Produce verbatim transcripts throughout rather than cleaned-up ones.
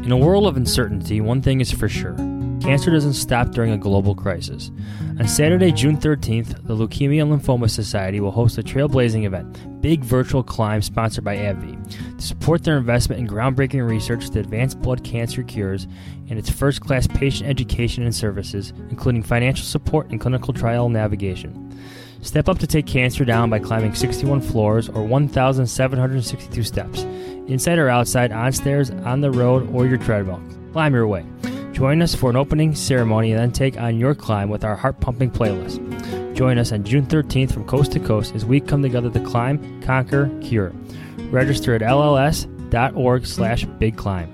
In a world of uncertainty, one thing is for sure. Cancer doesn't stop during a global crisis. On Saturday, June thirteenth, the Leukemia and Lymphoma Society will host a trailblazing event, Big Virtual Climb, sponsored by AbbVie, to support their investment in groundbreaking research to advance blood cancer cures and its first-class patient education and services, including financial support and clinical trial navigation. Step up to take cancer down by climbing sixty-one floors or one thousand seven hundred sixty-two steps, inside or outside, on stairs, on the road, or your treadmill. Climb your way. Join us for an opening ceremony and then take on your climb with our heart-pumping playlist. Join us on June thirteenth from coast to coast as we come together to climb, conquer, cure. Register at L L S dot org slash big climb.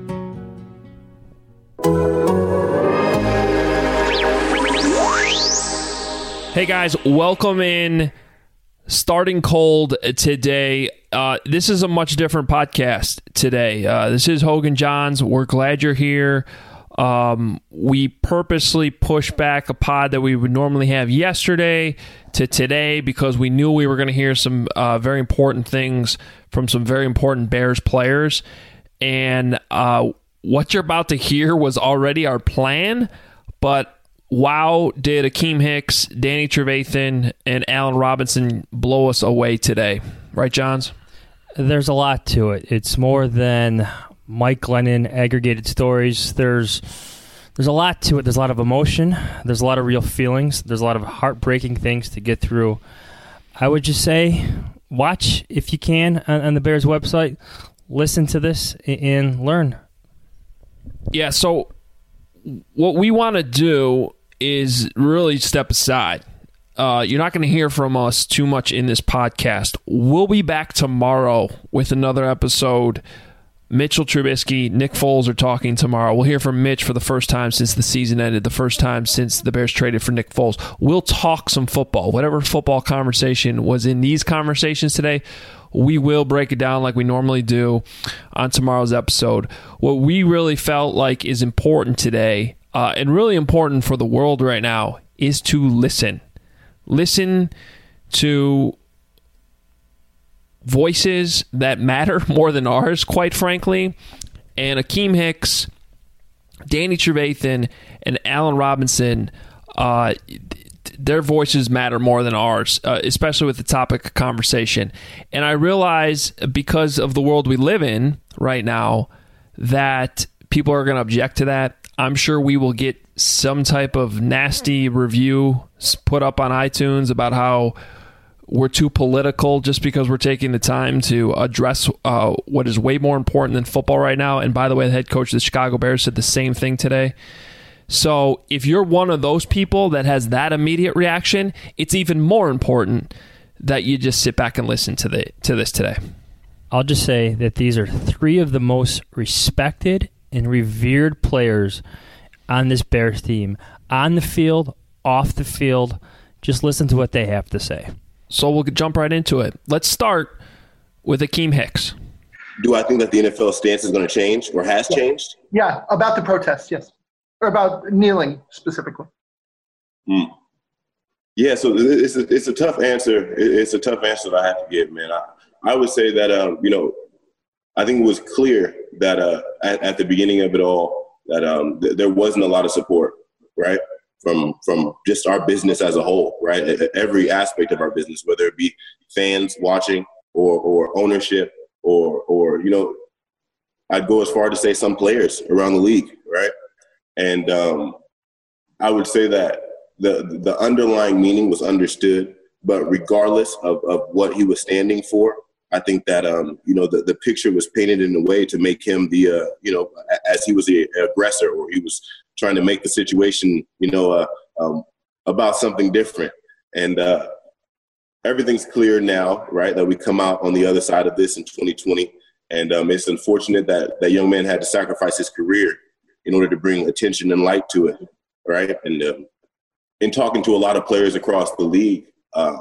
Hey guys, welcome in. Starting cold today. Uh, this is a much different podcast today. Uh, this is Hogan Johns. We're glad you're here. Um, we purposely pushed back a pod that we would normally have yesterday to today because we knew we were going to hear some uh, very important things from some very important Bears players. And uh, what you're about to hear was already our plan, but wow, did Akiem Hicks, Danny Trevathan, and Allen Robinson blow us away today. Right, Johns? There's a lot to it. It's more than Mike Glennon aggregated stories. There's there's a lot to it. There's a lot of emotion. There's a lot of real feelings. There's a lot of heartbreaking things to get through. I would just say watch, if you can, on, on the Bears website. Listen to this and learn. Yeah, so what we want to do is really step aside. Uh, you're not going to hear from us too much in this podcast. We'll be back tomorrow with another episode. Mitchell Trubisky, Nick Foles are talking tomorrow. We'll hear from Mitch for the first time since the season ended, the first time since the Bears traded for Nick Foles. We'll talk some football. Whatever football conversation was in these conversations today, we will break it down like we normally do on tomorrow's episode. What we really felt like is important today, uh, and really important for the world right now, is to listen. Listen to voices that matter more than ours, quite frankly. And Akiem Hicks, Danny Trevathan, and Allen Robinson, uh, their voices matter more than ours, uh, especially with the topic of conversation. And I realize, because of the world we live in right now, that people are going to object to that. I'm sure we will get some type of nasty review put up on iTunes about how we're too political just because we're taking the time to address uh, what is way more important than football right now. And by the way, the head coach of the Chicago Bears said the same thing today. So if you're one of those people that has that immediate reaction, it's even more important that you just sit back and listen to the to this today. I'll just say that these are three of the most respected and revered players on this Bears team, on the field, off the field. Just listen to what they have to say. So we'll jump right into it. Let's start with Akiem Hicks. Do I think that the N F L stance is going to change or has yeah. changed? Yeah, about the protests, yes. Or about kneeling specifically. Hmm. Yeah, so it's a, it's a tough answer. It's a tough answer that I have to give, man. I, I would say that, um, you know, I think it was clear that uh, at, at the beginning of it all that um, th- there wasn't a lot of support, right, from from just our business as a whole, right, every aspect of our business, whether it be fans watching or or ownership or, or you know, I'd go as far to say some players around the league, right? And um, I would say that the the underlying meaning was understood, but regardless of, of what he was standing for, I think that, um, you know, the, the picture was painted in a way to make him the, uh, you know, as he was the aggressor, or he was trying to make the situation, you know, uh, um, about something different. And uh, everything's clear now, right, that we come out on the other side of this in twenty twenty. And um, it's unfortunate that that young man had to sacrifice his career in order to bring attention and light to it, right? And um, in talking to a lot of players across the league, uh,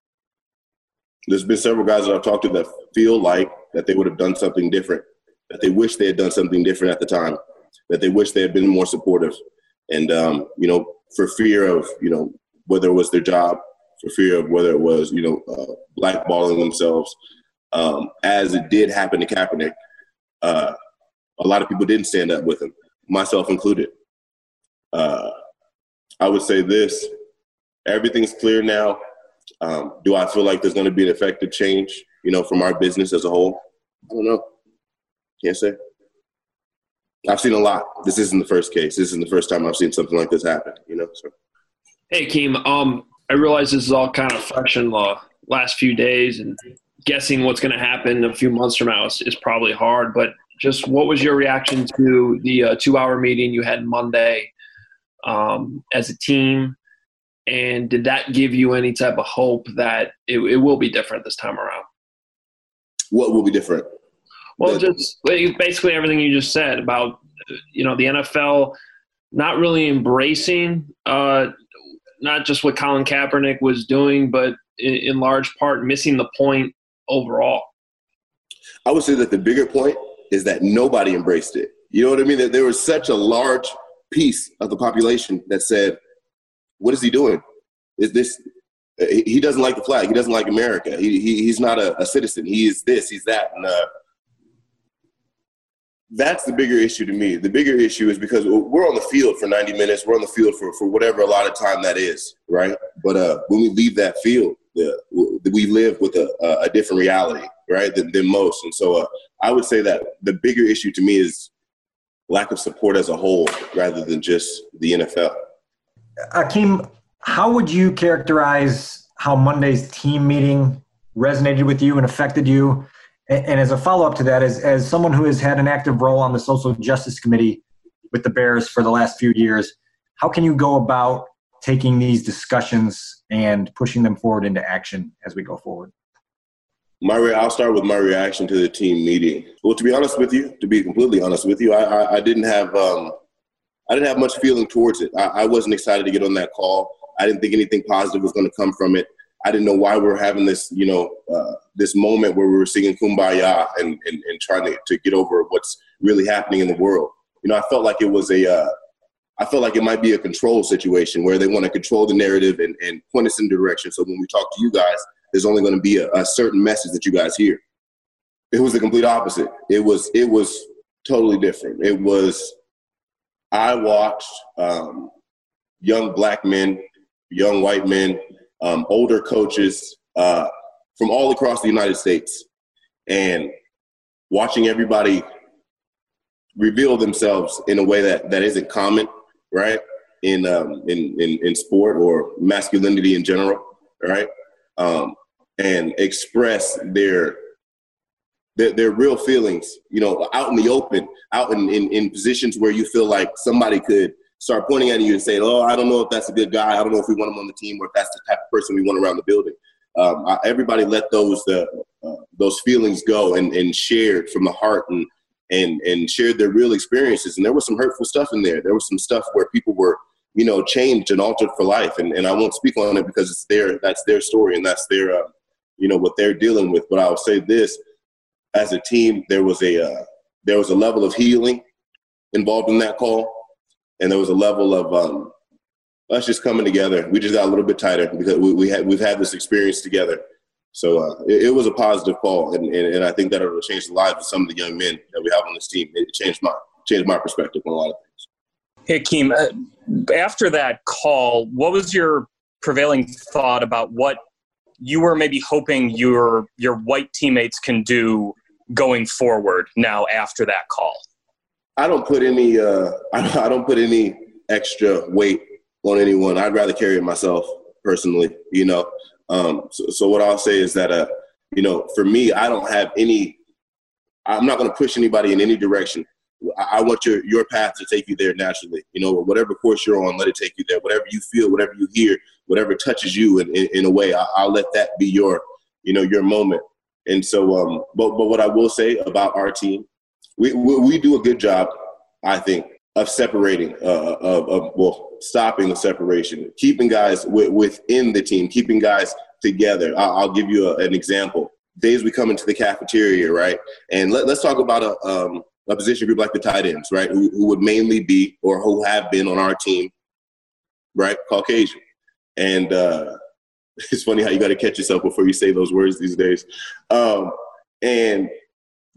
there's been several guys that I've talked to that feel like that they would have done something different, that they wish they had done something different at the time, that they wish they had been more supportive. And, um, you know, for fear of, you know, whether it was their job, for fear of whether it was, you know, uh, blackballing themselves, um, as it did happen to Kaepernick, uh, a lot of people didn't stand up with him, myself included. Uh, I would say this, everything's clear now. Um, do I feel like there's going to be an effective change, you know, from our business as a whole? I don't know. Can't say. I've seen a lot. This isn't the first case. This isn't the first time I've seen something like this happen, you know. So. Hey, Keem, um, I realize this is all kind of fresh in the last few days, and guessing what's going to happen a few months from now is, is probably hard. But just what was your reaction to the uh, two-hour meeting you had Monday um, as a team? And did that give you any type of hope that it, it will be different this time around? What will be different? Well, just basically everything you just said about, you know, the N F L not really embracing uh, not just what Colin Kaepernick was doing, but in, in large part missing the point overall. I would say that the bigger point is that nobody embraced it. You know what I mean? That there was such a large piece of the population that said, what is he doing? Is this – he doesn't like the flag. He doesn't like America. He, he He's not a, a citizen. He is this. He's that. And uh, that's the bigger issue to me. The bigger issue is because we're on the field for ninety minutes. We're on the field for, for whatever a lot of time that is, right? But uh, when we leave that field, the, we live with a, a different reality, right, than, than most. And so uh, I would say that the bigger issue to me is lack of support as a whole rather than just the N F L. Akeem, how would you characterize how Monday's team meeting resonated with you and affected you? And, and as a follow-up to that, as, as someone who has had an active role on the Social Justice Committee with the Bears for the last few years, how can you go about taking these discussions and pushing them forward into action as we go forward? My re- I'll start with my reaction to the team meeting. Well, to be honest with you, to be completely honest with you, I, I, I didn't have um, – I didn't have much feeling towards it. I, I wasn't excited to get on that call. I didn't think anything positive was going to come from it. I didn't know why we were having this, you know, uh, this moment where we were singing Kumbaya and, and, and trying to, to get over what's really happening in the world. You know, I felt like it was a, uh, I felt like it might be a control situation where they want to control the narrative and, and point us in a direction. So when we talk to you guys, there's only going to be a, a certain message that you guys hear. It was the complete opposite. It was, it was totally different. It was, I watched um, young black men, young white men, um, older coaches uh, from all across the United States, and watching everybody reveal themselves in a way that, that isn't common, right, in, um, in, in, in sport or masculinity in general, right, um, and express their Their, their real feelings, you know, out in the open, out in, in, in positions where you feel like somebody could start pointing at you and saying, oh, I don't know if that's a good guy. I don't know if we want him on the team or if that's the type of person we want around the building. Um, I, everybody let those uh, uh, those feelings go and, and shared from the heart and, and, and shared their real experiences. And there was some hurtful stuff in there. There was some stuff where people were, you know, changed and altered for life. And, and I won't speak on it because it's their, that's their story and that's their, uh, you know, what they're dealing with. But I'll say this. As a team, there was a uh, there was a level of healing involved in that call, and there was a level of um, us just coming together. We just got a little bit tighter because we, we had we've had this experience together. So uh, it, it was a positive call, and, and, and I think that it will change the lives of some of the young men that we have on this team. It changed my changed my perspective on a lot of things. Hey, Keem, uh, after that call, what was your prevailing thought about what you were maybe hoping your your white teammates can do going forward now after that call? I don't put any uh, I don't put any extra weight on anyone. I'd rather carry it myself personally, you know. Um, so, so what I'll say is that, uh, you know, for me, I don't have any – I'm not going to push anybody in any direction. I, I want your your path to take you there naturally. You know, whatever course you're on, let it take you there. Whatever you feel, whatever you hear, whatever touches you in, in, in a way, I, I'll let that be your, you know, your moment. And so, um, but but what I will say about our team, we we, we do a good job, I think, of separating, uh, of, of well, stopping the separation, keeping guys w- within the team, keeping guys together. I'll, I'll give you a, an example. Days we come into the cafeteria, right, and let, let's talk about a um, a position group like the tight ends, right, who, who would mainly be or who have been on our team, right, Caucasian, and. Uh, It's funny how you got to catch yourself before you say those words these days. Um, and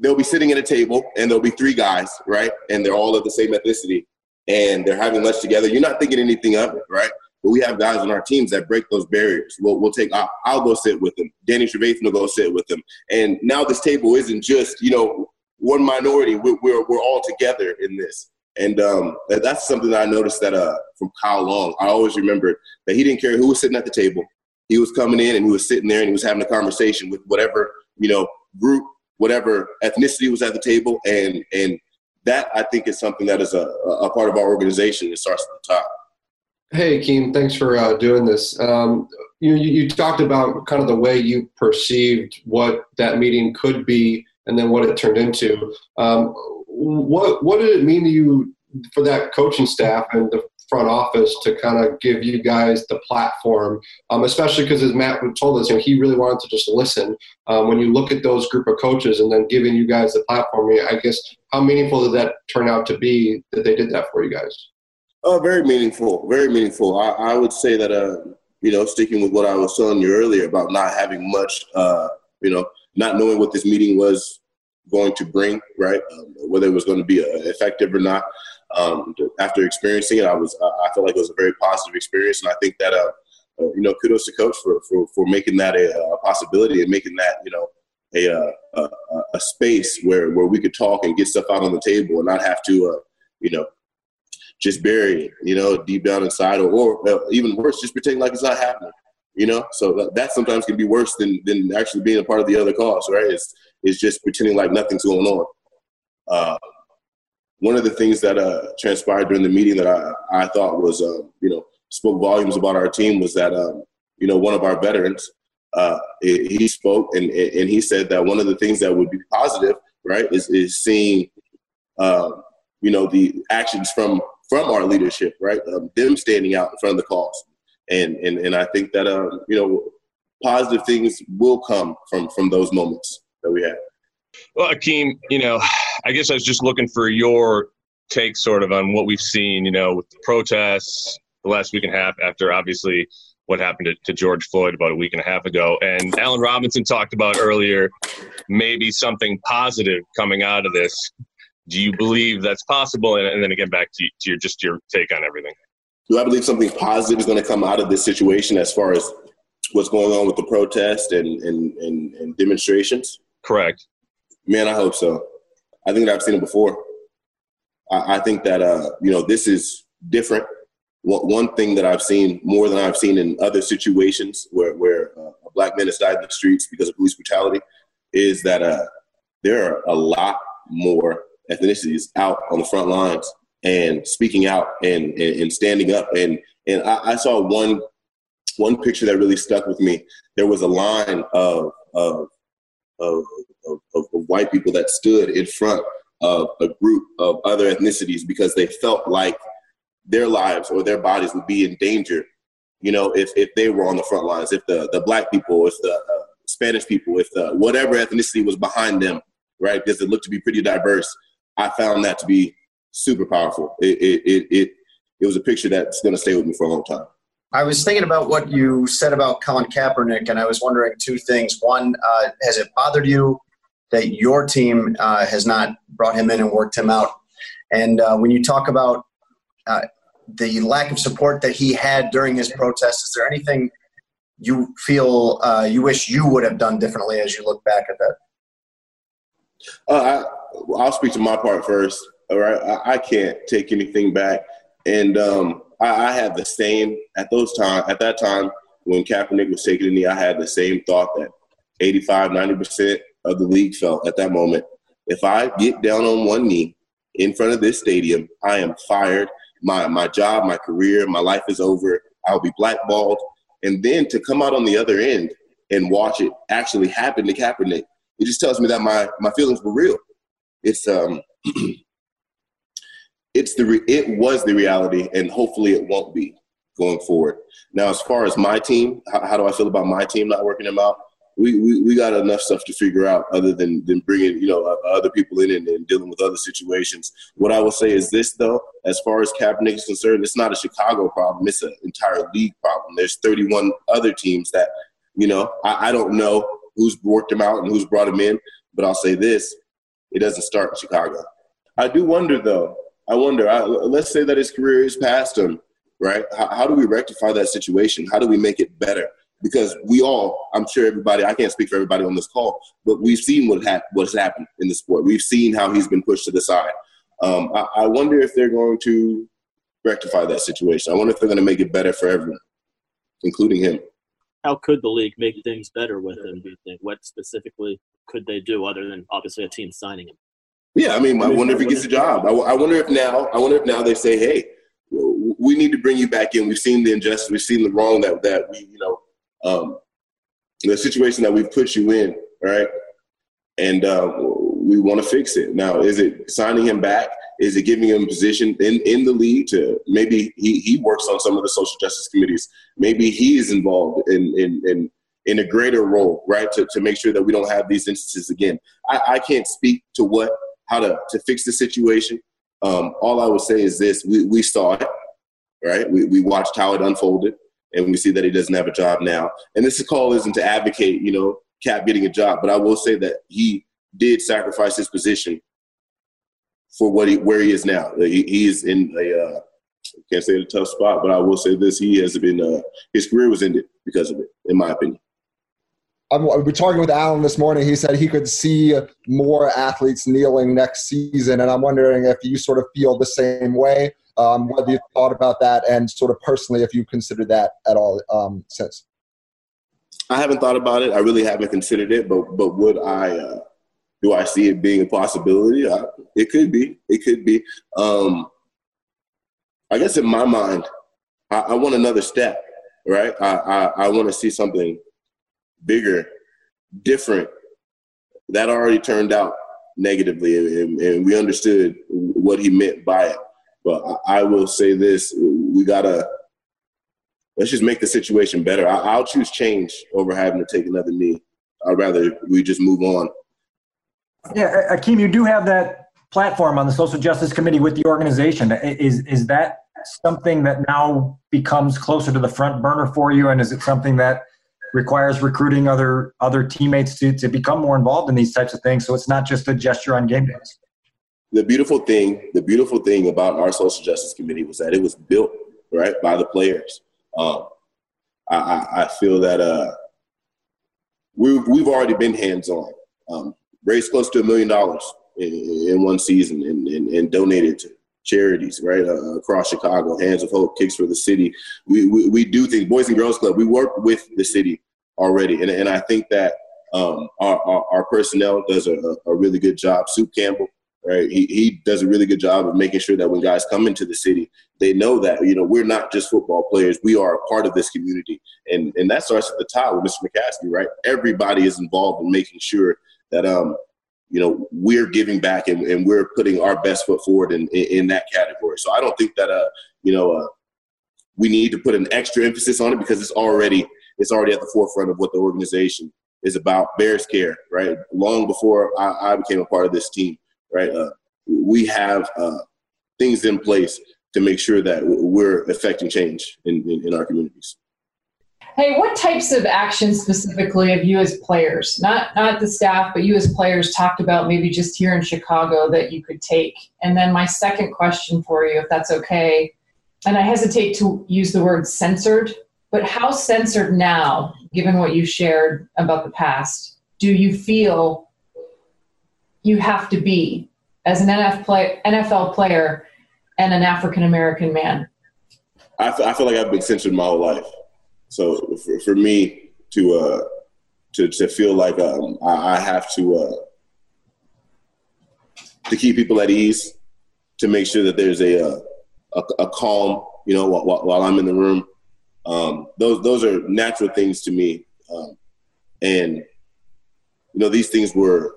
they'll be sitting at a table and there'll be three guys, right? And they're all of the same ethnicity and they're having lunch together. You're not thinking anything of it, right? But we have guys on our teams that break those barriers. We'll, we'll take, I'll, I'll go sit with them. Danny Trevathan will go sit with them. And now this table isn't just, you know, one minority. We're, we're, we're all together in this. And um, that, that's something that I noticed that uh, from Kyle Long. I always remembered that he didn't care who was sitting at the table. He was coming in and he was sitting there and he was having a conversation with whatever, you know, group, whatever ethnicity was at the table. And and that, I think, is something that is a, a part of our organization. It starts at the top. Hey, Keem, thanks for uh, doing this. Um, you, you talked about kind of the way you perceived what that meeting could be and then what it turned into. Um, what what did it mean to you for that coaching staff and the front office to kind of give you guys the platform, um, especially because, as Matt told us, you know, he really wanted to just listen. Um, when you look at those group of coaches and then giving you guys the platform, I guess, how meaningful did that turn out to be that they did that for you guys? Oh, very meaningful, very meaningful. I, I would say that, uh, you know, sticking with what I was telling you earlier about not having much, uh, you know, not knowing what this meeting was going to bring, right, um, whether it was going to be uh, effective or not. Um, after experiencing it, I was, uh, I felt like it was a very positive experience. And I think that, uh, uh, you know, kudos to Coach for, for, for making that a, a possibility and making that, you know, a, a, a space where, where we could talk and get stuff out on the table and not have to, uh, you know, just bury it, you know, deep down inside, or, or uh, even worse, just pretend like it's not happening, you know? So that, that sometimes can be worse than, than actually being a part of the other cause, right? It's, it's just pretending like nothing's going on. Uh, one of the things that uh, transpired during the meeting that I, I thought was, uh, you know, spoke volumes about our team was that, um, you know, one of our veterans, uh, he spoke and, and he said that one of the things that would be positive, right, is, is seeing, uh, you know, the actions from from our leadership, right, um, them standing out in front of the cause. And and and I think that, um, you know, positive things will come from, from those moments that we have. Well, Akeem, you know, I guess I was just looking for your take sort of on what we've seen, you know, with the protests the last week and a half after obviously what happened to, to George Floyd about a week and a half ago. And Allen Robinson talked about earlier maybe something positive coming out of this. Do you believe that's possible? And, and then again, back to, to your just your take on everything. Do I believe something positive is going to come out of this situation as far as what's going on with the protest and, and, and, and demonstrations? Correct. Man, I hope so. I think that I've seen it before. I, I think that, uh, you know, this is different. One, one thing that I've seen more than I've seen in other situations where, where uh, a black man has died in the streets because of police brutality is that uh, there are a lot more ethnicities out on the front lines and speaking out and, and, and standing up. And, and I, I saw one, one picture that really stuck with me. There was a line of, of, of, of, of white people that stood in front of a group of other ethnicities because they felt like their lives or their bodies would be in danger, you know, if, if they were on the front lines, if the, the black people, if the uh, Spanish people, if the whatever ethnicity was behind them, right, because it looked to be pretty diverse. I found that to be super powerful. It it it it, it was a picture that's going to stay with me for a long time. I was thinking about what you said about Colin Kaepernick, and I was wondering two things. One, uh, has it bothered you that your team uh, has not brought him in and worked him out? And uh, when you talk about uh, the lack of support that he had during his protest, is there anything you feel uh, you wish you would have done differently as you look back at that? Uh, I, I'll speak to my part first. All right, I, I can't take anything back, and um, I, I had the same at those time. At that time, when Kaepernick was taking the knee, I had the same thought that eighty-five, ninety percent of the league felt at that moment. If I get down on one knee in front of this stadium, I am fired. My my job, my career, my life is over. I'll be blackballed. And then to come out on the other end and watch it actually happen to Kaepernick, it just tells me that my, my feelings were real. It's um, it's the re- it was the reality, and hopefully it won't be going forward. Now, as far as my team, how, how do I feel about my team not working them out? We, we we got enough stuff to figure out other than than bringing you know uh, other people in and, and dealing with other situations. What I will say is this, though, as far as Kaepernick is concerned, it's not a Chicago problem. It's an entire league problem. There's thirty-one other teams that, you know, I, I don't know who's worked him out and who's brought him in, but I'll say this. it doesn't start in Chicago. I do wonder, though. I wonder, I, let's say that his career is past him, right? How, how do we rectify that situation? How do we make it better? Because we all, I'm sure everybody, I can't speak for everybody on this call, but we've seen what ha- what's happened in the sport. We've seen how he's been pushed to the side. Um, I, I wonder if they're going to rectify that situation. I wonder if they're going to make it better for everyone, including him. How could the league make things better with him, do you think? What specifically could they do other than obviously a team signing him? Yeah, I mean, I wonder if he gets a job. I, I wonder if now, I wonder if now they say, hey, we need to bring you back in. We've seen the injustice. We've seen the wrong that, that we, you know, um, the situation that we've put you in, right? And uh, we want to fix it. Now, is it signing him back? Is it giving him a position in, in the league to maybe he, he works on some of the social justice committees? Maybe he is involved in in in, in a greater role, right, to, to make sure that we don't have these instances again. I, I can't speak to what how to, to fix the situation. Um, all I would say is this. We, we saw it, right? We, we watched how it unfolded, and we see that he doesn't have a job now. And this call isn't to advocate, you know, Cap getting a job, but I will say that he did sacrifice his position for what he where he is now. He, he is in a uh, can't say a tough spot, but I will say this: he has been uh, his career was ended because of it, in my opinion. I'm, we're talking with Alan this morning. He said he could see more athletes kneeling next season, and I'm wondering if you sort of feel the same way. Um, whether you thought about that, and sort of personally, if you considered that at all um, since. I haven't thought about it. I really haven't considered it, but but would I? Uh, do I see it being a possibility? I, it could be. It could be. Um, I guess in my mind, I, I want another step, right? I I, I want to see something bigger, different. That already turned out negatively, and, and we understood what he meant by it. But I, I will say this: we gotta. Let's just make the situation better. I, I'll choose change over having to take another knee. I'd rather we just move on. Yeah, Akeem, you do have that platform on the Social Justice Committee with the organization. Is is that something that now becomes closer to the front burner for you, and is it something that requires recruiting other other teammates to, to become more involved in these types of things, so it's not just a gesture on game days? The beautiful thing, the beautiful thing about our Social Justice Committee was that it was built, right, by the players. Um, I, I, I feel that uh, we've, we've already been hands-on. Um, raised close to a million dollars in, in one season and, and, and donated to charities, right, uh, across Chicago. Hands of Hope, Kicks for the City. We, we we do things. Boys and Girls Club, we work with the city already. And, and I think that um, our, our, our personnel does a, a really good job. Soup Campbell, right, he, he does a really good job of making sure that when guys come into the city, they know that, you know, we're not just football players. We are a part of this community. And, and that starts at the top with Mister McCaskey, right? Everybody is involved in making sure that, um, you know, we're giving back and, and we're putting our best foot forward in, in, in that category. So I don't think that, uh, you know, uh, we need to put an extra emphasis on it because it's already it's already at the forefront of what the organization is about. Bears care, right? Long before I, I became a part of this team, right? Uh, we have uh, things in place to make sure that we're affecting change in, in, in our communities. Hey, what types of actions specifically have you as players, not not the staff, but you as players talked about maybe just here in Chicago that you could take? And then my second question for you, if that's okay, and I hesitate to use the word censored, but how censored now, given what you shared about the past, do you feel you have to be as an N F L player and an African-American man? I, f- I feel like I've been censored my whole life. So for, for me to uh, to to feel like um, I, I have to uh, to keep people at ease, to make sure that there's a a, a calm, you know, while, while I'm in the room. Um, those those are natural things to me, um, and you know these things were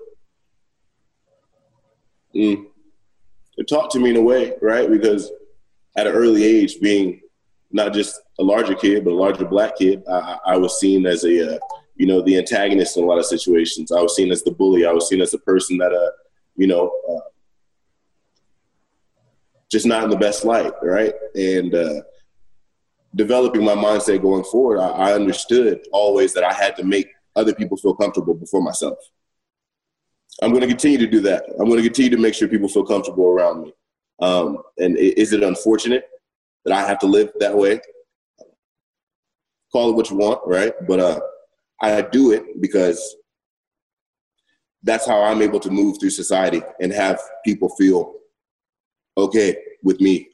mm, taught to me in a way, right? Because at an early age, being not just a larger kid, but a larger black kid, I, I was seen as a, uh, you know, the antagonist in a lot of situations. I was seen as the bully. I was seen as the person that, uh, you know, uh, just not in the best light, right? And uh, developing my mindset going forward, I, I understood always that I had to make other people feel comfortable before myself. I'm going to continue to do that. I'm going to continue to make sure people feel comfortable around me. Um, and is it unfortunate that I have to live that way? Call it what you want, right? But uh, I do it because that's how I'm able to move through society and have people feel okay with me.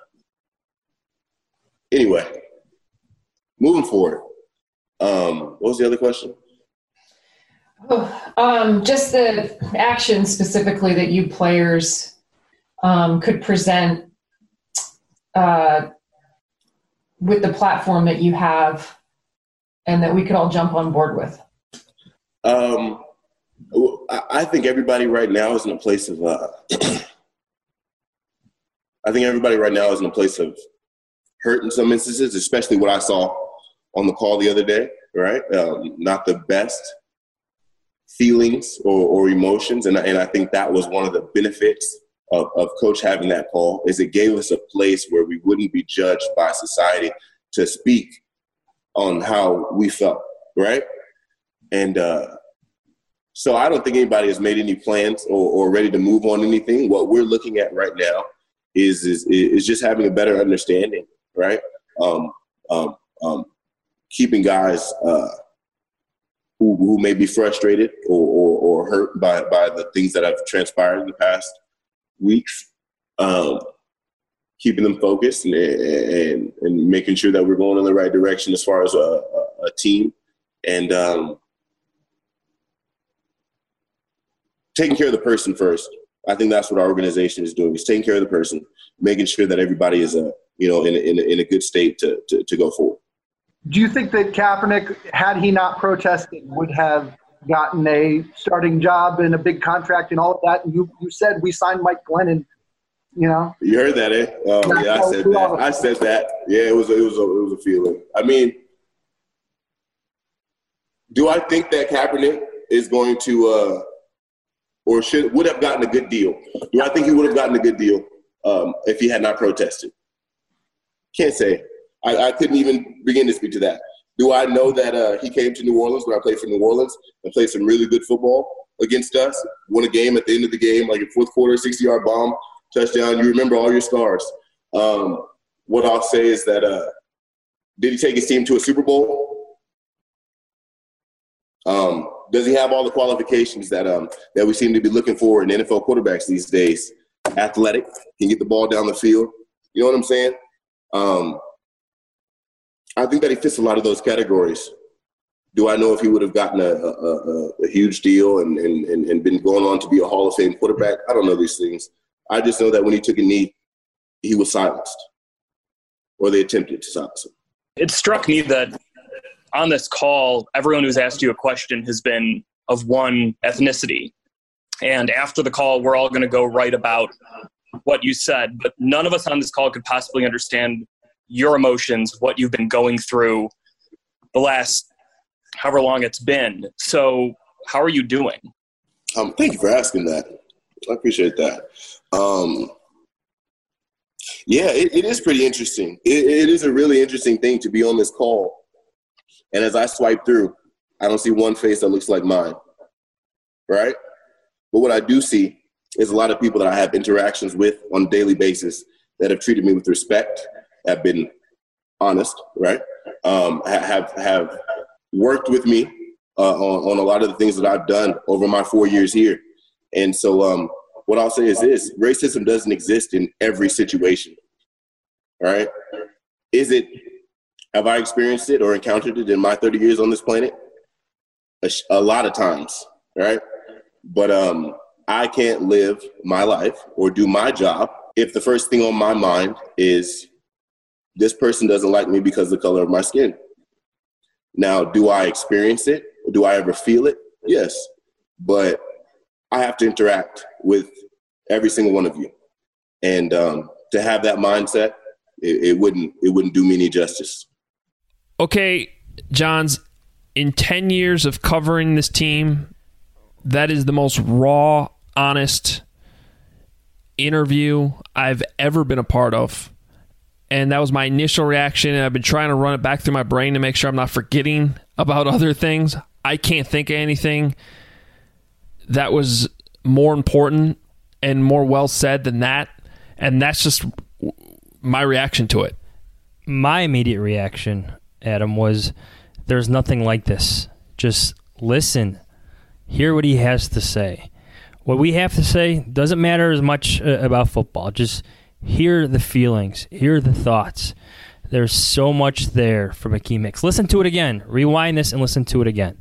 Anyway, moving forward. Um, what was the other question? Oh, um, just the actions specifically that you players um, could present uh, with the platform that you have and that we could all jump on board with. Um, I think everybody right now is in a place of, uh, I think everybody right now is in a place of hurt in some instances, especially what I saw on the call the other day, right? Um, not the best feelings or, or emotions. And, and I think that was one of the benefits of, of Coach having that call, is it gave us a place where we wouldn't be judged by society to speak on how we felt, right? And uh, so I don't think anybody has made any plans or, or ready to move on anything. What we're looking at right now is is, is just having a better understanding, right? Um, um, um, keeping guys uh, who, who may be frustrated or, or, or hurt by, by the things that have transpired in the past weeks, um, keeping them focused and, and, and making sure that we're going in the right direction as far as a, a, a team. And um, taking care of the person first. I think that's what our organization is doing, is taking care of the person, making sure that everybody is a, you know, in a, in a, in a good state to, to, to go forward. Do you think that Kaepernick, had he not protested, would have gotten a starting job and a big contract and all of that? And you, you said we signed Mike Glennon, you know? You heard that, eh? Oh, yeah, I said that. I said that. Yeah, it was a, it was a, it was a feeling. I mean, do I think that Kaepernick is going to uh, or should would have gotten a good deal? Do I think he would have gotten a good deal um, if he had not protested? Can't say. I, I couldn't even begin to speak to that. Do I know that uh, he came to New Orleans when I played for New Orleans and played some really good football against us, won a game at the end of the game, like a fourth quarter, sixty-yard bomb, touchdown. You remember all your stars. Um, what I'll say is that uh, did he take his team to a Super Bowl? Um, does he have all the qualifications that um, that we seem to be looking for in N F L quarterbacks these days? Athletic, can get the ball down the field. You know what I'm saying? Um, I think that he fits a lot of those categories. Do I know if he would have gotten a, a, a, a huge deal and, and, and been going on to be a Hall of Fame quarterback? I don't know these things. I just know that when he took a knee, he was silenced, or they attempted to silence him. It struck me that on this call, everyone who's asked you a question has been of one ethnicity. And after the call, we're all going to go right about what you said. But none of us on this call could possibly understand your emotions, what you've been going through the last however long it's been. So how are you doing? Um, thank you for asking that. I appreciate that. Um, yeah, it, it is pretty interesting. It, it is a really interesting thing to be on this call. And as I swipe through, I don't see one face that looks like mine, right? But what I do see is a lot of people that I have interactions with on a daily basis that have treated me with respect, have been honest, right? Um, have have worked with me uh, on, on a lot of the things that I've done over my four years here. And so um, what I'll say is this: racism doesn't exist in every situation, right? Is it, have I experienced it or encountered it in my thirty years on this planet? A, a lot of times, right? But um, I can't live my life or do my job if the first thing on my mind is this person doesn't like me because of the color of my skin. Now, do I experience it? Do I ever feel it? Yes. But I have to interact with every single one of you. And um, to have that mindset, it, it wouldn't it wouldn't do me any justice. Okay, Johns, in ten years of covering this team, that is the most raw, honest interview I've ever been a part of. And that was my initial reaction, and I've been trying to run it back through my brain to make sure I'm not forgetting about other things. I can't think of anything that was more important and more well said than that. And that's just my reaction to it. My immediate reaction, Adam, was there's nothing like this. Just listen. Hear what he has to say. What we have to say doesn't matter as much uh, about football. Just hear the feelings. Hear the thoughts. There's so much there from Akiem Hicks. Listen to it again. Rewind this and listen to it again.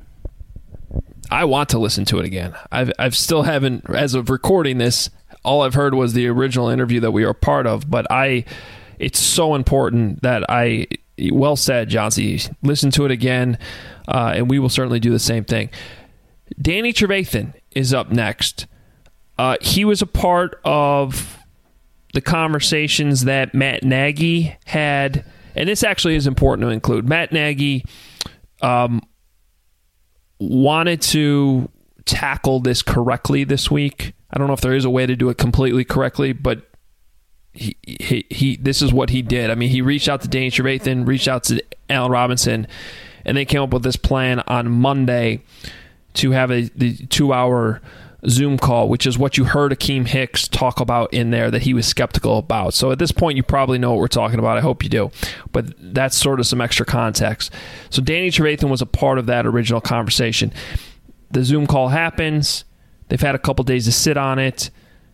I want to listen to it again. I've I've still haven't, as of recording this, all I've heard was the original interview that we were part of. But I, it's so important that I, well said, Johnsy. Listen to it again, uh, and we will certainly do the same thing. Danny Trevathan is up next. Uh, he was a part of the conversations that Matt Nagy had, and this actually is important to include. Matt Nagy um, wanted to tackle this correctly this week. I don't know if there is a way to do it completely correctly, but he he, he this is what he did. I mean, he reached out to Danny Trevathan, reached out to Allen Robinson, and they came up with this plan on Monday to have a the two-hour Zoom call, which is what you heard Akiem Hicks talk about in there that he was skeptical about. So at this point, you probably know what we're talking about. I hope you do. But that's sort of some extra context. So Danny Trevathan was a part of that original conversation. The Zoom call happens. They've had a couple days to sit on it.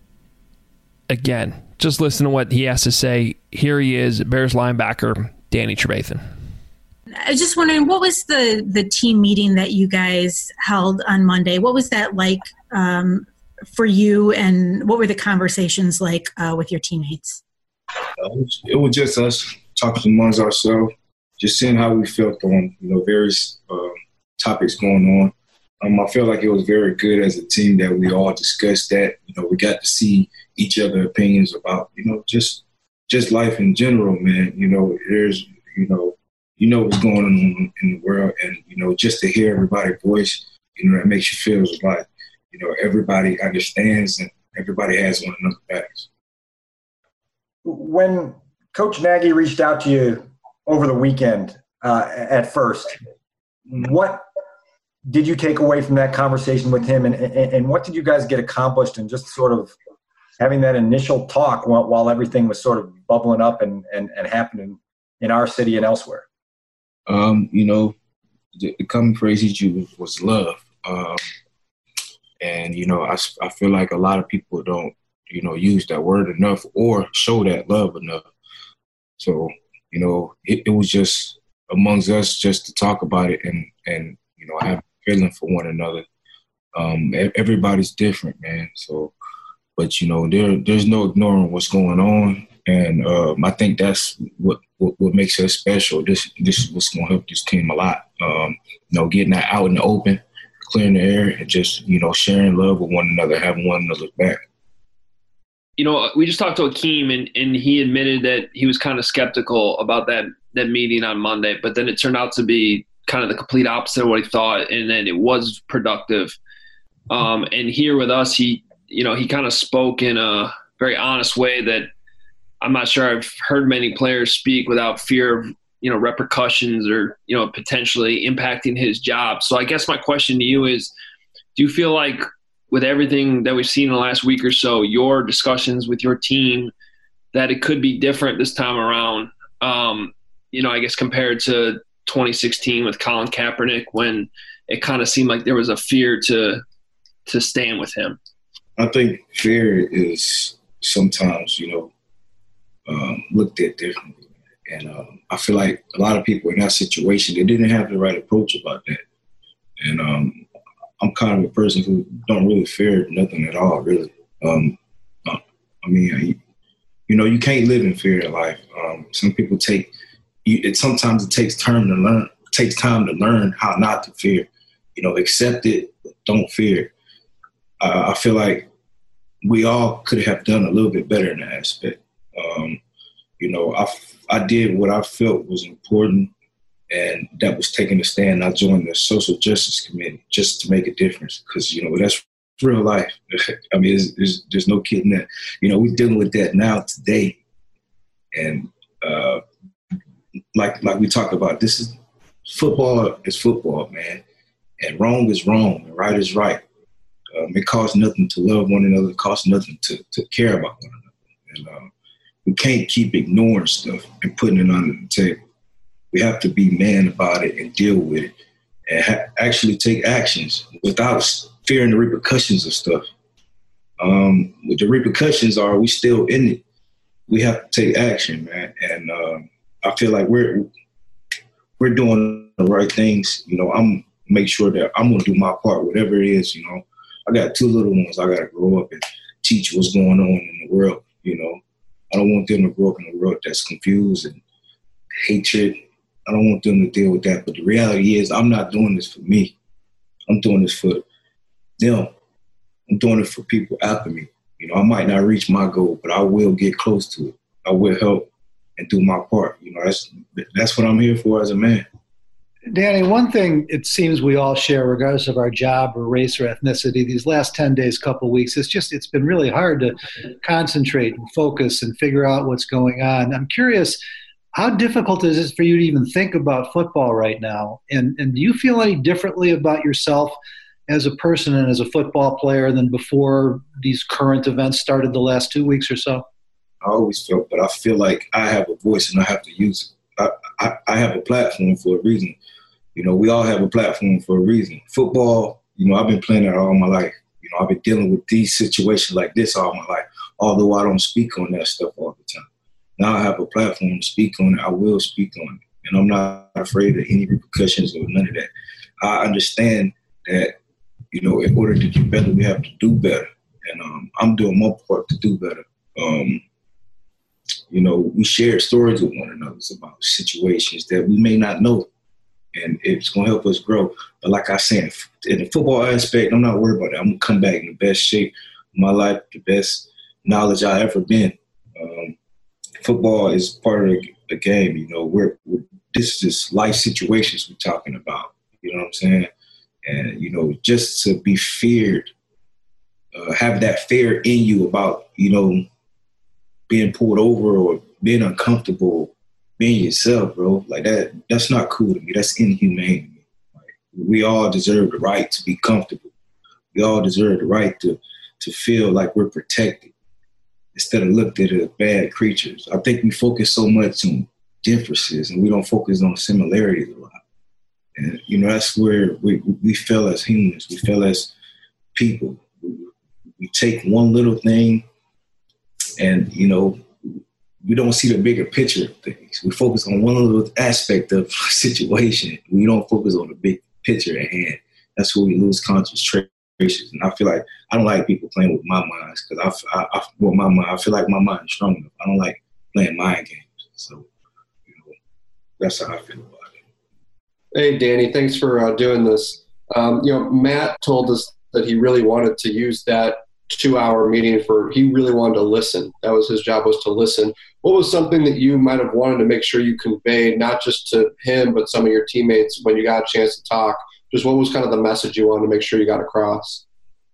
Again, just listen to what he has to say. Here he is, Bears linebacker, Danny Trevathan. I was just wondering, what was the, the team meeting that you guys held on Monday? What was that like um, for you, and what were the conversations like uh, with your teammates? Uh, it, was, it was just us talking amongst ourselves, just seeing how we felt on you know various uh, topics going on. Um, I feel like it was very good as a team that we all discussed that. You know, we got to see each other's opinions about you know just just life in general, man. You know, there's you know. You know what's going on in the world, and you know just to hear everybody's voice, you know, that makes you feel like you know everybody understands and everybody has one another's backs. When Coach Nagy reached out to you over the weekend, uh, at first, what did you take away from that conversation with him, and, and, and what did you guys get accomplished in just sort of having that initial talk while, while everything was sort of bubbling up and, and, and happening in our city and elsewhere? Um, you know, the, the common phrase he used was love. Um, and, you know, I, I feel like a lot of people don't, you know, use that word enough or show that love enough. So, you know, it, it was just amongst us just to talk about it and, and you know, have a feeling for one another. Um, everybody's different, man. So, but, you know, there there's no ignoring what's going on. And um, I think that's what, what what makes us special. This this is what's going to help this team a lot. Um, you know, getting that out in the open, clearing the air, and just you know sharing love with one another, having one another's back. You know, we just talked to Akiem, and, and he admitted that he was kind of skeptical about that that meeting on Monday, but then it turned out to be kind of the complete opposite of what he thought, and then it was productive. Um, and here with us, he you know he kind of spoke in a very honest way that I'm not sure I've heard many players speak without fear of, you know, repercussions or, you know, potentially impacting his job. So I guess my question to you is, do you feel like with everything that we've seen in the last week or so, your discussions with your team, that it could be different this time around, um, you know, I guess compared to twenty sixteen with Colin Kaepernick, when it kind of seemed like there was a fear to to stand with him? I think fear is sometimes, you know, Um, looked at differently. And um, I feel like a lot of people in that situation, they didn't have the right approach about that. And um, I'm kind of a person who don't really fear nothing at all, really. Um, uh, I mean, I, you know, you can't live in fear in life. Um, some people take, you, it, sometimes it takes time to learn, it takes time to learn how not to fear. You know, accept it, but don't fear. Uh, I feel like we all could have done a little bit better in that aspect. Um, you know, I, I did what I felt was important, and that was taking a stand. I joined the Social Justice Committee just to make a difference because, you know, that's real life. I mean, it's, it's, there's no kidding that. You know, we're dealing with that now today. And uh, like like we talked about, this is football is football, man. And wrong is wrong and right is right. Um, it costs nothing to love one another. It costs nothing to, to care about one another. And um, we can't keep ignoring stuff and putting it under the table. We have to be man about it and deal with it and ha- actually take actions without fearing the repercussions of stuff. Um, what the repercussions are, we still in it. We have to take action, man. And um, I feel like we're we're doing the right things. You know, I'm make sure that I'm gonna do my part, whatever it is. You know, I got two little ones. I gotta grow up and teach what's going on in the world. You know, I don't want them to grow up in a world that's confused and hatred. I don't want them to deal with that. But the reality is, I'm not doing this for me. I'm doing this for them. I'm doing it for people after me. You know, I might not reach my goal, but I will get close to it. I will help and do my part. You know, that's that's what I'm here for as a man. Danny, one thing it seems we all share, regardless of our job or race or ethnicity, these last ten days, couple of weeks, it's just, it's been really hard to concentrate and focus and figure out what's going on. I'm curious, how difficult is it for you to even think about football right now? And, and do you feel any differently about yourself as a person and as a football player than before these current events started the last two weeks or so? I always felt, but I feel like I have a voice and I have to use it. I, I, I have a platform for a reason. You know, we all have a platform for a reason. Football, you know, I've been playing it all my life. You know, I've been dealing with these situations like this all my life, although I don't speak on that stuff all the time. Now I have a platform to speak on it. I will speak on it. And I'm not afraid of any repercussions or none of that. I understand that, you know, in order to do better, we have to do better. And um, I'm doing my part to do better. Um, you know, we share stories with one another about situations that we may not know. And it's going to help us grow. But like I said, in the football aspect, I'm not worried about it. I'm going to come back in the best shape of my life, the best knowledge I've ever been. Um, football is part of the, the game. You know, we're, we're this is just life situations we're talking about. You know what I'm saying? And, you know, just to be feared, uh, have that fear in you about, you know, being pulled over or being uncomfortable, being yourself, bro, like that, that's not cool to me. That's inhumane to me. Like, we all deserve the right to be comfortable. We all deserve the right to, to feel like we're protected instead of looked at as bad creatures. I think we focus so much on differences and we don't focus on similarities a lot. And, you know, that's where we, we fail as humans. We fail as people. We, we take one little thing and, you know, we don't see the bigger picture of things. We focus on one little aspect of a situation. We don't focus on the big picture at hand. That's where we lose concentration. And I feel like I don't like people playing with my minds because I, I, I, with my mind, I feel like my mind is strong enough. I don't like playing mind games. So, you know, that's how I feel about it. Hey, Danny, thanks for uh, doing this. Um, you know, Matt told us that he really wanted to use that two-hour meeting for, he really wanted to listen. That was his job, was to listen. What was something that you might have wanted to make sure you conveyed, not just to him, but some of your teammates when you got a chance to talk? Just what was kind of the message you wanted to make sure you got across?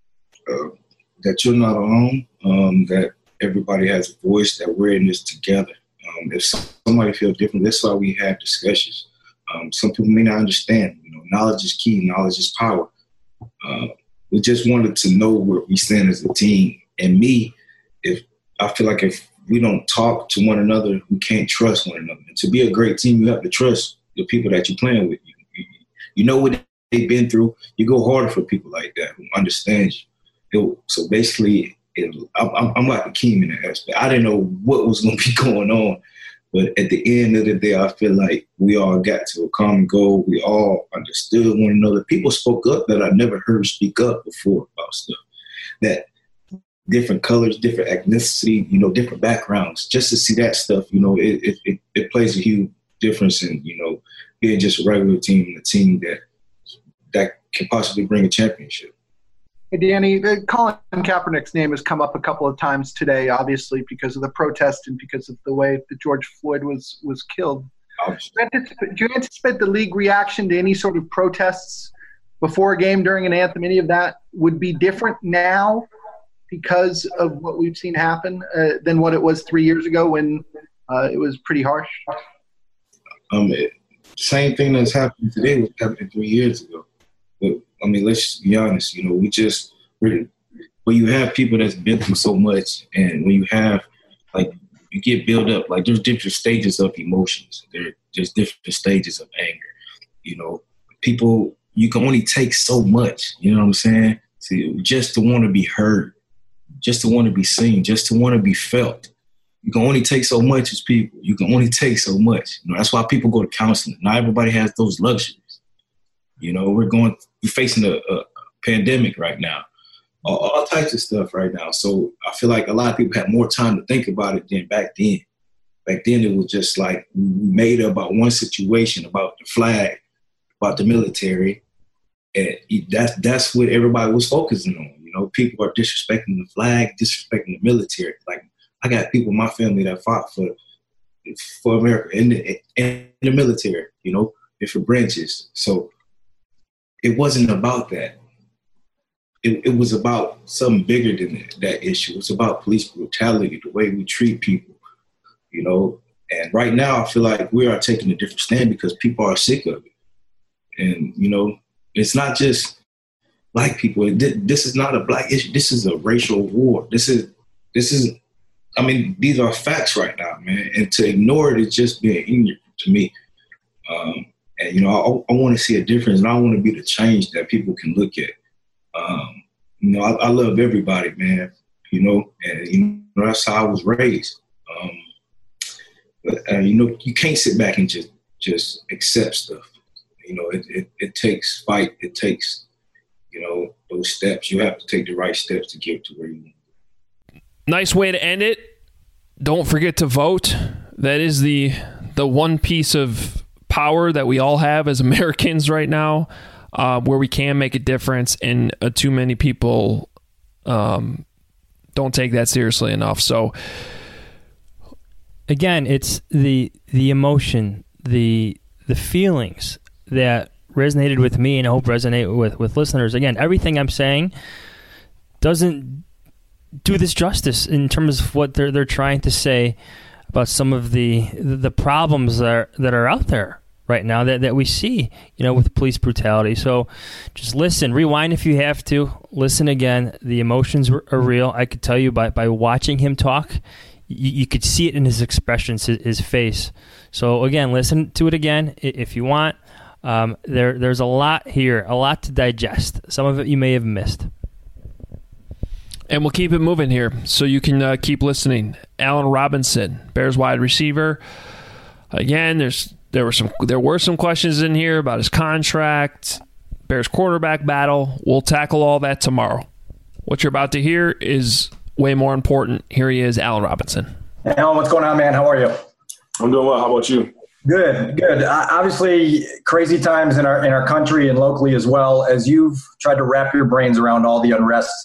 Uh, that you're not alone, um, that everybody has a voice, that we're in this together. Um, if somebody feels different, that's why we have discussions. Um, some people may not understand. You know, knowledge is key. Knowledge is power. Uh, we just wanted to know where we stand as a team. And me, if I feel like if we don't talk to one another, we can't trust one another. And to be a great team, you have to trust the people that you're playing with. You, you, you know what they've been through. You go harder for people like that who understand you. It, so basically, it, I'm, I'm like a Keem in that aspect. I didn't know what was going to be going on. But at the end of the day, I feel like we all got to a common goal. We all understood one another. People spoke up that I never heard speak up before about stuff. That different colors, different ethnicity, you know, different backgrounds. Just to see that stuff, you know, it it, it plays a huge difference in, you know, being just a regular team, a team that that can possibly bring a championship. Hey, Danny, Colin Kaepernick's name has come up a couple of times today, obviously, because of the protest and because of the way that George Floyd was, was killed. Do you anticipate the league reaction to any sort of protests before a game, during an anthem, any of that would be different now because of what we've seen happen uh, than what it was three years ago when uh, it was pretty harsh? Um, it, same thing that's happening today was happening three years ago. But, I mean, let's be honest, you know, we just really. When you have people that's been through so much, and when you have, like, you get built up, like there's different stages of emotions. There, there's different stages of anger. You know, people, you can only take so much, you know what I'm saying? See, just to want to be heard, just to want to be seen, just to want to be felt. You can only take so much as people. You can only take so much. You know, that's why people go to counseling. Not everybody has those luxuries. You know, we're going, we're facing a, a pandemic right now. All, all types of stuff right now. So I feel like a lot of people had more time to think about it than back then. Back then it was just like we made up about one situation, about the flag, about the military, and that's that's what everybody was focusing on. You know, people are disrespecting the flag, disrespecting the military. Like, I got people in my family that fought for for America in the, in the military, you know, different branches. So it wasn't about that. It, it was about something bigger than that, that issue. It's about police brutality, the way we treat people, you know. And right now I feel like we are taking a different stand because people are sick of it. And, you know, it's not just black people. This is not a black issue. This is a racial war. This is, this is, I mean, these are facts right now, man. And to ignore it is just being ignorant to me. Um, and, you know, I, I want to see a difference, and I want to be the change that people can look at. Um, you know, I, I love everybody, man, you know, and, you know, that's how I was raised. Um, but, uh, you know, you can't sit back and just, just accept stuff. You know, it, it, it takes fight. It takes, you know, those steps. You have to take the right steps to get to where you want. Nice way to end it. Don't forget to vote. That is the the one piece of power that we all have as Americans right now, uh, where we can make a difference, and uh, too many people um, don't take that seriously enough. So, again, it's the the emotion, the the feelings that resonated with me, and I hope resonate with, with listeners. Again, everything I'm saying doesn't do this justice in terms of what they're they're trying to say about some of the the problems that are, that are out there right now that, that we see, you know, with police brutality. So just listen, rewind if you have to, listen again. The emotions are real. I could tell you by, by watching him talk, you, you could see it in his expressions, his, his face. So again, listen to it again if you want. Um, there there's a lot here, a lot to digest. Some of it you may have missed. And we'll keep it moving here so you can uh, keep listening. Allen Robinson, Bears wide receiver. Again, there's there were some there were some questions in here about his contract, Bears quarterback battle. We'll tackle all that tomorrow. What you're about to hear is way more important. Here he is, Allen Robinson. Hey, Allen, what's going on, man? How are you? I'm doing well. How about you? Good, good. Uh, obviously, crazy times in our in our country and locally as well. As you've tried to wrap your brains around all the unrest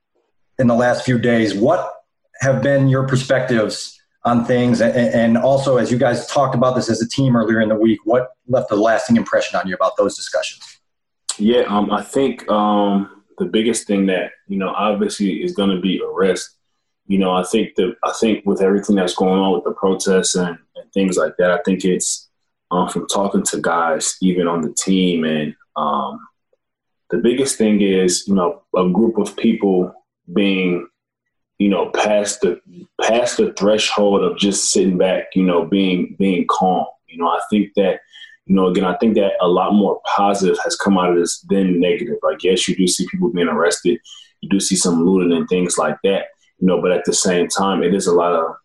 in the last few days, what have been your perspectives on things? And, and also, as you guys talked about this as a team earlier in the week, what left a lasting impression on you about those discussions? Yeah, um, I think um, the biggest thing that, you know, obviously is going to be arrest. You know, I think that I think with everything that's going on with the protests and, and things like that, I think it's um, from talking to guys, even on the team. And um, the biggest thing is, you know, a group of people being, you know, past the past the threshold of just sitting back, you know, being being calm. You know, I think that, you know, again, I think that a lot more positive has come out of this than negative. Like, yes, you do see people being arrested. You do see some looting and things like that, you know, but at the same time, it is a lot of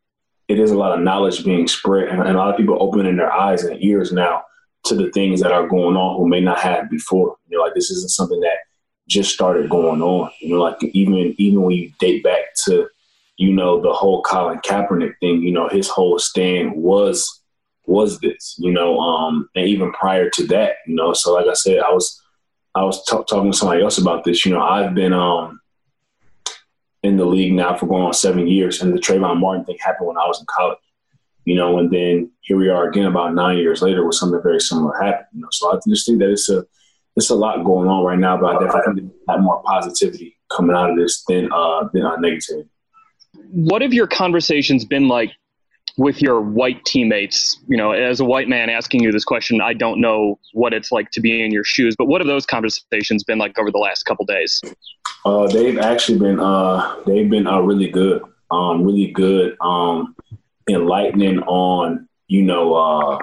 it is a lot of knowledge being spread, and, and a lot of people opening their eyes and ears now to the things that are going on who may not have before. You know, like, this isn't something that just started going on, you know, like even even when you date back to, you know, the whole Colin Kaepernick thing, you know, his whole stand was was this, you know, um, and even prior to that, you know, so like I said, I was I was t- talking to somebody else about this. You know, I've been um, in the league now for going on seven years, and the Trayvon Martin thing happened when I was in college, you know, and then here we are again about nine years later with something very similar happened, you know, so I just think that it's a It's a lot going on right now, but I definitely think a lot more positivity coming out of this than uh, than uh, negativity. What have your conversations been like with your white teammates? You know, as a white man asking you this question, I don't know what it's like to be in your shoes, but what have those conversations been like over the last couple days? Uh, they've actually been uh, they've been uh, really good, um, really good, um, enlightening on, you know, uh,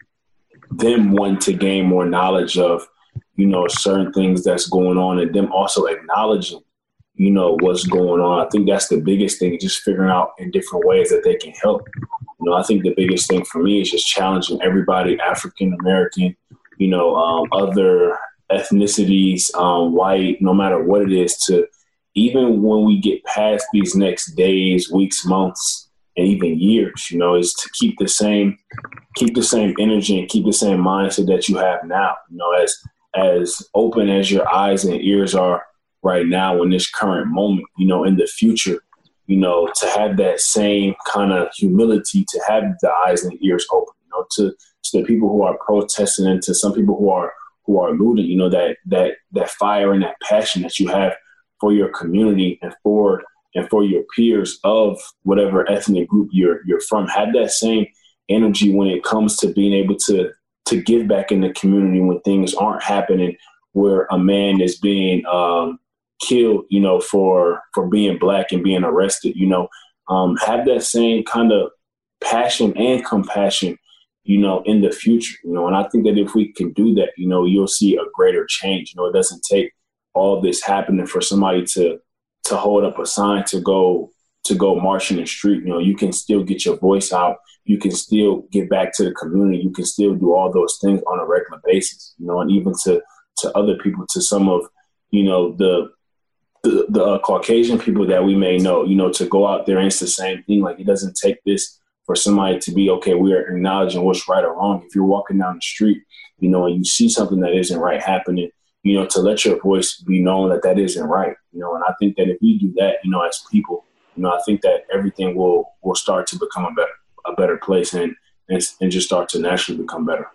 them wanting to gain more knowledge of, you know, certain things that's going on, and them also acknowledging, you know, what's going on. I think that's the biggest thing, just figuring out in different ways that they can help. You know, I think the biggest thing for me is just challenging everybody, African American, you know, um, other ethnicities, um, white, no matter what it is, to even when we get past these next days, weeks, months, and even years, you know, is to keep the same, keep the same energy and keep the same mindset that you have now. You know, as as open as your eyes and ears are right now in this current moment, you know, in the future, you know, to have that same kind of humility, to have the eyes and ears open, you know, to, to the people who are protesting and to some people who are who are looting, you know, that that that fire and that passion that you have for your community and for and for your peers of whatever ethnic group you're you're from. Have that same energy when it comes to being able to to give back in the community when things aren't happening, where a man is being um, killed, you know, for for being black and being arrested. You know, um, have that same kind of passion and compassion, you know, in the future, you know, and I think that if we can do that, you know, you'll see a greater change. You know, it doesn't take all this happening for somebody to to hold up a sign to go to go march in the street. You know, you can still get your voice out. You can still get back to the community. You can still do all those things on a regular basis, you know, and even to to other people, to some of, you know, the the, the uh, Caucasian people that we may know, you know, to go out there and it's the same thing. Like, it doesn't take this for somebody to be, okay, we are acknowledging what's right or wrong. If you're walking down the street, you know, and you see something that isn't right happening, you know, to let your voice be known that that isn't right, you know, and I think that if we do that, you know, as people, you know, I think that everything will will start to become a better a better place and and, and just start to naturally become better.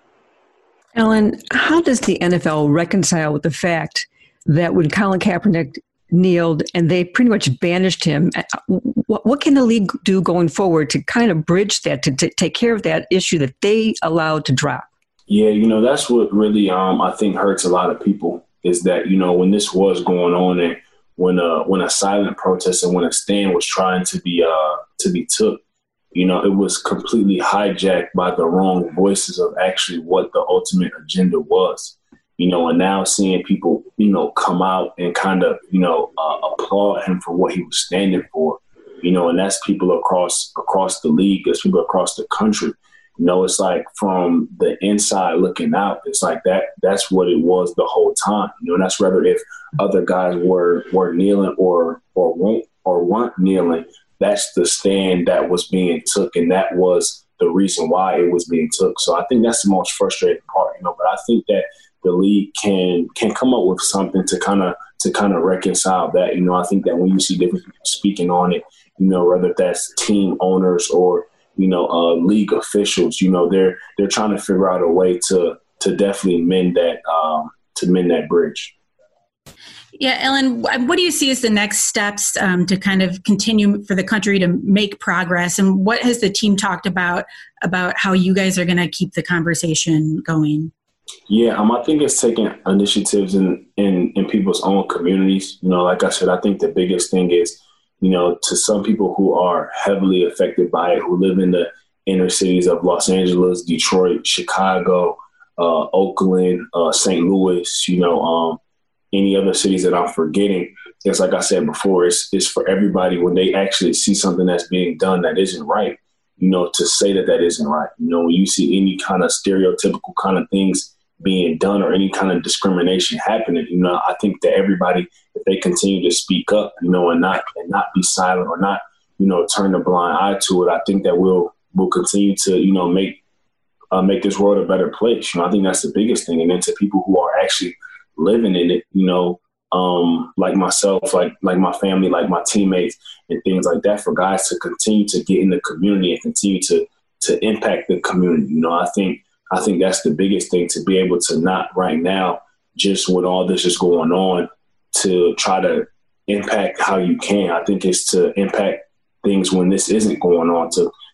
Alan, how does the N F L reconcile with the fact that when Colin Kaepernick kneeled and they pretty much banished him, what, what can the league do going forward to kind of bridge that, to, to take care of that issue that they allowed to drop? Yeah, you know, that's what really um, I think hurts a lot of people, is that, you know, when this was going on and when a, when a silent protest and when a stand was trying to be uh, to be took, you know, it was completely hijacked by the wrong voices of actually what the ultimate agenda was, you know, and now seeing people, you know, come out and kind of, you know, uh, applaud him for what he was standing for, you know, and that's people across across the league, that's people across the country. You know, it's like from the inside looking out, it's like that, that's what it was the whole time, you know, and that's whether if other guys were, were kneeling or, or won't, or weren't kneeling. That's the stand that was being took, and that was the reason why it was being took. So I think that's the most frustrating part, you know. But I think that the league can can come up with something to kind of to kind of reconcile that. You know, I think that when you see different people speaking on it, you know, whether that's team owners or, you know, uh, league officials, you know, they're they're trying to figure out a way to to definitely mend that um, to mend that bridge. Yeah, Ellen, what do you see as the next steps um, to kind of continue for the country to make progress? And what has the team talked about, about how you guys are going to keep the conversation going? Yeah, um, I think it's taking initiatives in, in, in people's own communities. You know, like I said, I think the biggest thing is, you know, to some people who are heavily affected by it, who live in the inner cities of Los Angeles, Detroit, Chicago, uh, Oakland, uh, Saint Louis, you know, um, any other cities that I'm forgetting. It's like I said before, it's, it's for everybody when they actually see something that's being done that isn't right, you know, to say that that isn't right. You know, when you see any kind of stereotypical kind of things being done or any kind of discrimination happening, you know, I think that everybody, if they continue to speak up, you know, and not and not be silent or not, you know, turn a blind eye to it, I think that we'll we'll continue to, you know, make uh, make this world a better place. You know, I think that's the biggest thing. And then to people who are actually living in it, you know, um, like myself, like like my family, like my teammates and things like that, for guys to continue to get in the community and continue to to impact the community. You know, I think I think that's the biggest thing, to be able to not right now, just when all this is going on, to try to impact how you can. I think it's to impact things when this isn't going on, to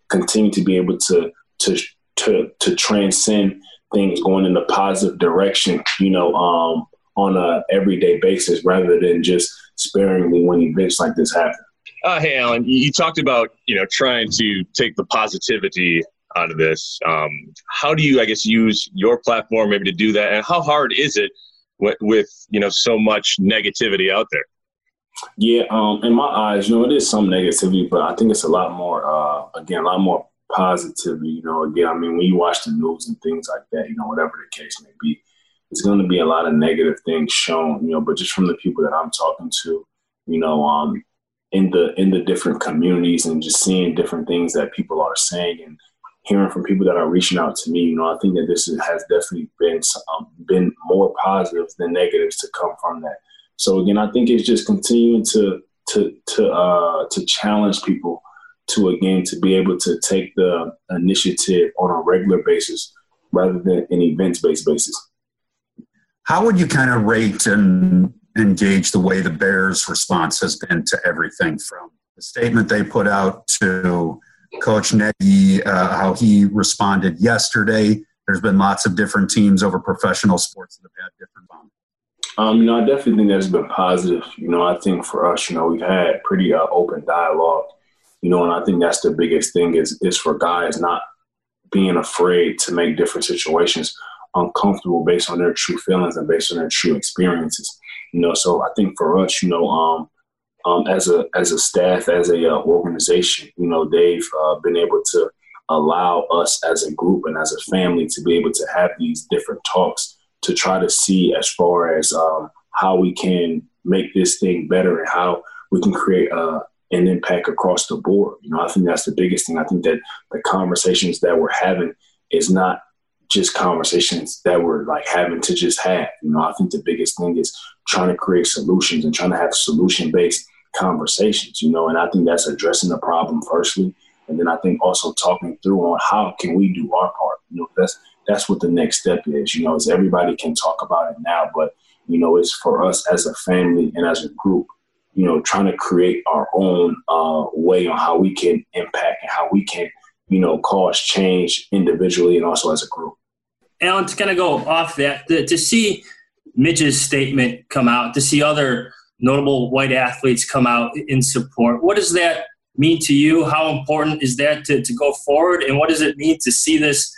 continue to be able to to to to transcend things going in a positive direction, you know, um, on a everyday basis rather than just sparingly when events like this happen. Uh, hey, Alan, you talked about, you know, trying to take the positivity out of this. Um, how do you, I guess, use your platform maybe to do that? And how hard is it with, with you know, so much negativity out there? Yeah, um, in my eyes, you know, it is some negativity, but I think it's a lot more, uh, again, a lot more positivity. You know, again, I mean, when you watch the news and things like that, you know, whatever the case may be, it's going to be a lot of negative things shown, you know, but just from the people that I'm talking to, you know, um, in the in the different communities and just seeing different things that people are saying and hearing from people that are reaching out to me, you know, I think that this has definitely been um, been more positives than negatives to come from that. So again, I think it's just continuing to to to uh, to challenge people to again to be able to take the initiative on a regular basis rather than an events-based basis. How would you kind of rate and engage the way the Bears' response has been to everything from the statement they put out to Coach Nagy, uh, how he responded yesterday? There's been lots of different teams over professional sports that have had different boundaries. Um, you know, I definitely think that's been positive. You know, I think for us, you know, we've had pretty uh, open dialogue, you know, and I think that's the biggest thing is, is for guys not being afraid to make different situations uncomfortable based on their true feelings and based on their true experiences. You know, so I think for us, you know, um, um, as a as a staff, as a uh, organization, you know, they've uh, been able to allow us as a group and as a family to be able to have these different talks to try to see as far as um, how we can make this thing better and how we can create uh, an impact across the board. You know, I think that's the biggest thing. I think that the conversations that we're having is not just conversations that we're like having to just have. You know, I think the biggest thing is trying to create solutions and trying to have solution-based conversations, you know, and I think that's addressing the problem firstly. And then I think also talking through on how can we do our part. You know, that's that's what the next step is, you know, is everybody can talk about it now, but, you know, it's for us as a family and as a group, you know, trying to create our own uh, way on how we can impact and how we can, you know, cause change individually and also as a group. Alan, to kind of go off that, to, to see Mitch's statement come out, to see other notable white athletes come out in support, what does that mean to you? How important is that to, to go forward? And what does it mean to see this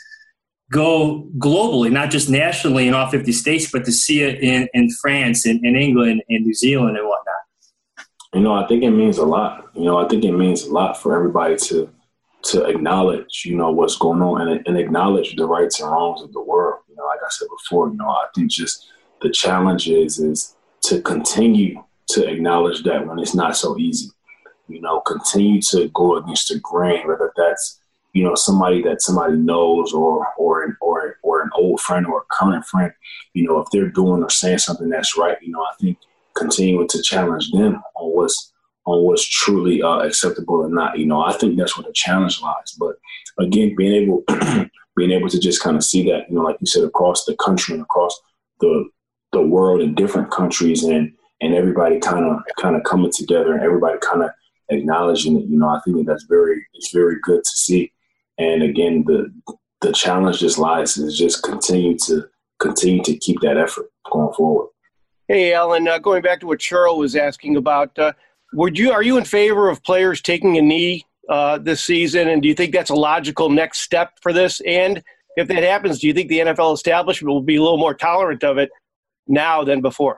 go globally, not just nationally in all fifty states, but to see it in, in France and in England and New Zealand and whatnot? You know, I think it means a lot. You know, I think it means a lot for everybody to to acknowledge, you know, what's going on and, and acknowledge the rights and wrongs of the world. You know, like I said before, you know, I think just the challenge is, is to continue to acknowledge that when it's not so easy, you know, continue to go against the grain, whether that's, you know, somebody that somebody knows or, or, an, or, or an old friend or a current friend, you know, if they're doing or saying something that's right, you know, I think continuing to challenge them on what's, on what's truly uh, acceptable or not. You know, I think that's where the challenge lies. But again, being able being able to just kind of see that, you know, like you said, across the country and across the the world in different countries and and everybody kind of kind of coming together and everybody kind of acknowledging it, you know, I think that that's very it's very good to see. And again, the the challenge just lies is just continue to continue to keep that effort going forward. Hey, Alan, uh, going back to what Cheryl was asking about, uh, Would you are you in favor of players taking a knee uh, this season, and do you think that's a logical next step for this? And if that happens, do you think the N F L establishment will be a little more tolerant of it now than before?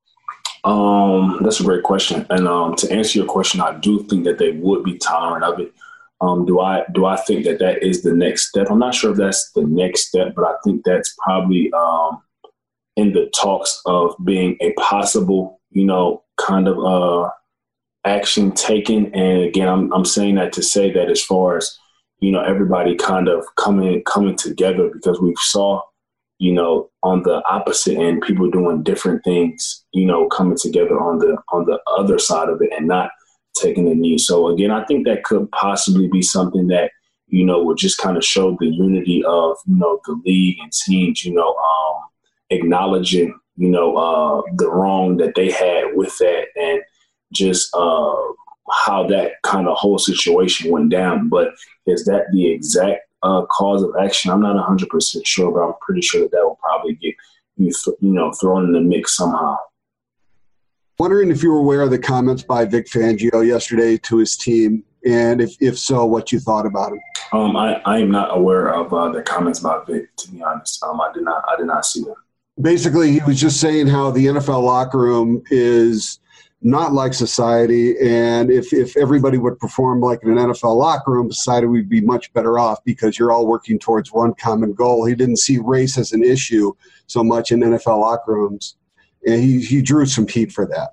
Um, that's a great question. And um, to answer your question, I do think that they would be tolerant of it. Um, do I do I think that that is the next step? I'm not sure if that's the next step, but I think that's probably um, in the talks of being a possible, you know, kind of uh, – action taken. And again, I'm I'm saying that to say that as far as, you know, everybody kind of coming coming together, because we saw, you know, on the opposite end, people doing different things, you know, coming together on the on the other side of it and not taking the knee. So again, I think that could possibly be something that, you know, would just kind of show the unity of, you know, the league and teams, you know, um, acknowledging, you know, uh, the wrong that they had with that and just uh, how that kind of whole situation went down. But is that the exact uh, cause of action? I'm not one hundred percent sure, but I'm pretty sure that that will probably get you, th- you know, thrown in the mix somehow. Wondering if you were aware of the comments by Vic Fangio yesterday to his team, and if, if so, what you thought about him. Um, I, I am not aware of uh, the comments about Vic, to be honest. Um, I did not I did not see them. Basically, he was just saying how the N F L locker room is not like society, and if, if everybody would perform like in an N F L locker room, society would be much better off because you're all working towards one common goal. He didn't see race as an issue so much in N F L locker rooms, and he, he drew some heat for that.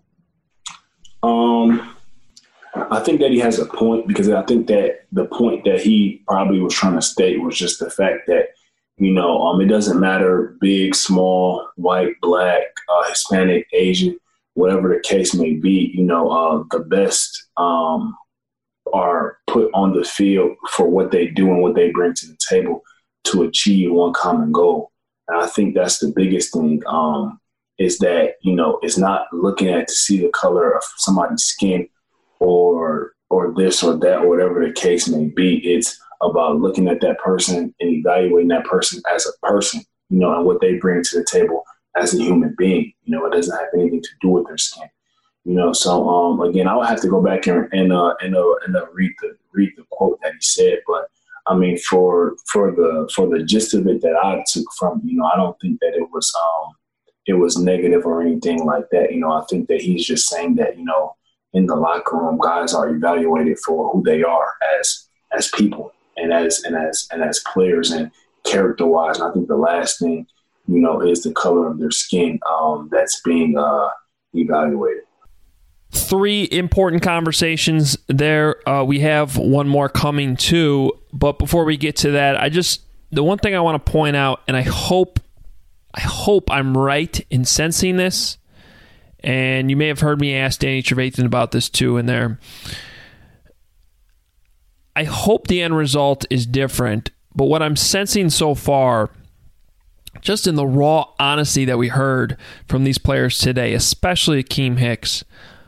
Um, I think that he has a point, because I think that the point that he probably was trying to state was just the fact that, you know, um, it doesn't matter big, small, white, black, uh, Hispanic, Asian, whatever the case may be, you know, uh, the best um, are put on the field for what they do and what they bring to the table to achieve one common goal. And I think that's the biggest thing, um, is that, you know, it's not looking at to see the color of somebody's skin or or this or that or whatever the case may be. It's about looking at that person and evaluating that person as a person, you know, and what they bring to the table as a human being. You know, it doesn't have anything to do with their skin. You know, so um, again, I would have to go back and and uh, and, uh, and uh, read the read the quote that he said. But I mean, for for the for the gist of it that I took from, you know, I don't think that it was um it was negative or anything like that. You know, I think that he's just saying that, you know, in the locker room, guys are evaluated for who they are as as people and as and as and as players and character wise. And I think the last thing, you know, is the color of their skin um, that's being uh, evaluated. Three important conversations there. Uh, we have one more coming too. But before we get to that, I just, the one thing I want to point out, and I hope, I hope I'm right in sensing this, and you may have heard me ask Danny Trevathan about this too in there. I hope the end result is different, but what I'm sensing so far, just in the raw honesty that we heard from these players today, especially Akiem Hicks,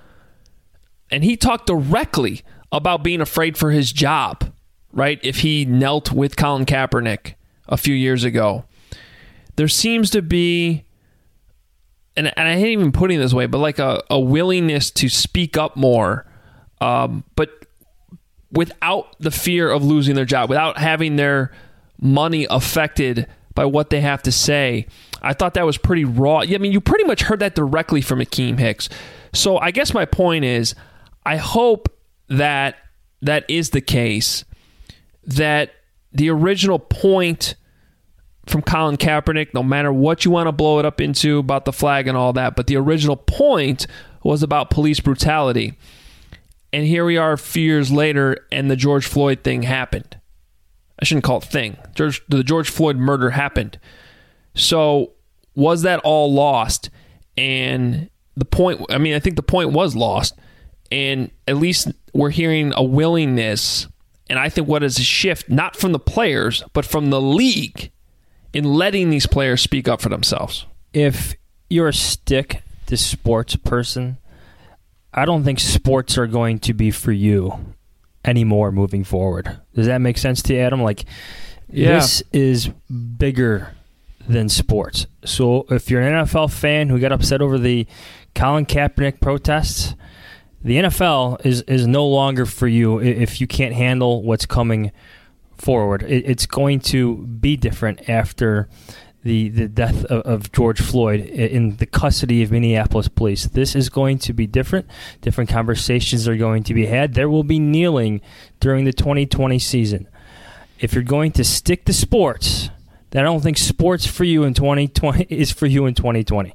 and he talked directly about being afraid for his job, right? If he knelt with Colin Kaepernick a few years ago. There seems to be, and, and I hate even putting it this way, but like a, a willingness to speak up more, um, but without the fear of losing their job, without having their money affected by what they have to say. I thought that was pretty raw. I mean, you pretty much heard that directly from Akiem Hicks. So I guess my point is, I hope that that is the case, that the original point from Colin Kaepernick, no matter what you want to blow it up into about the flag and all that, but the original point was about police brutality. And here we are a few years later, and the George Floyd thing happened. I shouldn't call it thing. George, the George Floyd murder happened. So was that all lost? And the point, I mean, I think the point was lost. And at least we're hearing a willingness, and I think what is a shift, not from the players, but from the league, in letting these players speak up for themselves. If you're a stick to sports person, I don't think sports are going to be for you anymore moving forward. Does that make sense to you, Adam? Like, yeah. This is bigger than sports. So if you're an N F L fan who got upset over the Colin Kaepernick protests, the N F L is, is no longer for you if you can't handle what's coming forward. It, it's going to be different after the, the death of, of George Floyd in the custody of Minneapolis police. This is going to be different. Different conversations are going to be had. There will be kneeling during the twenty twenty season. If you're going to stick to sports, then I don't think sports for you in twenty twenty is for you in twenty twenty.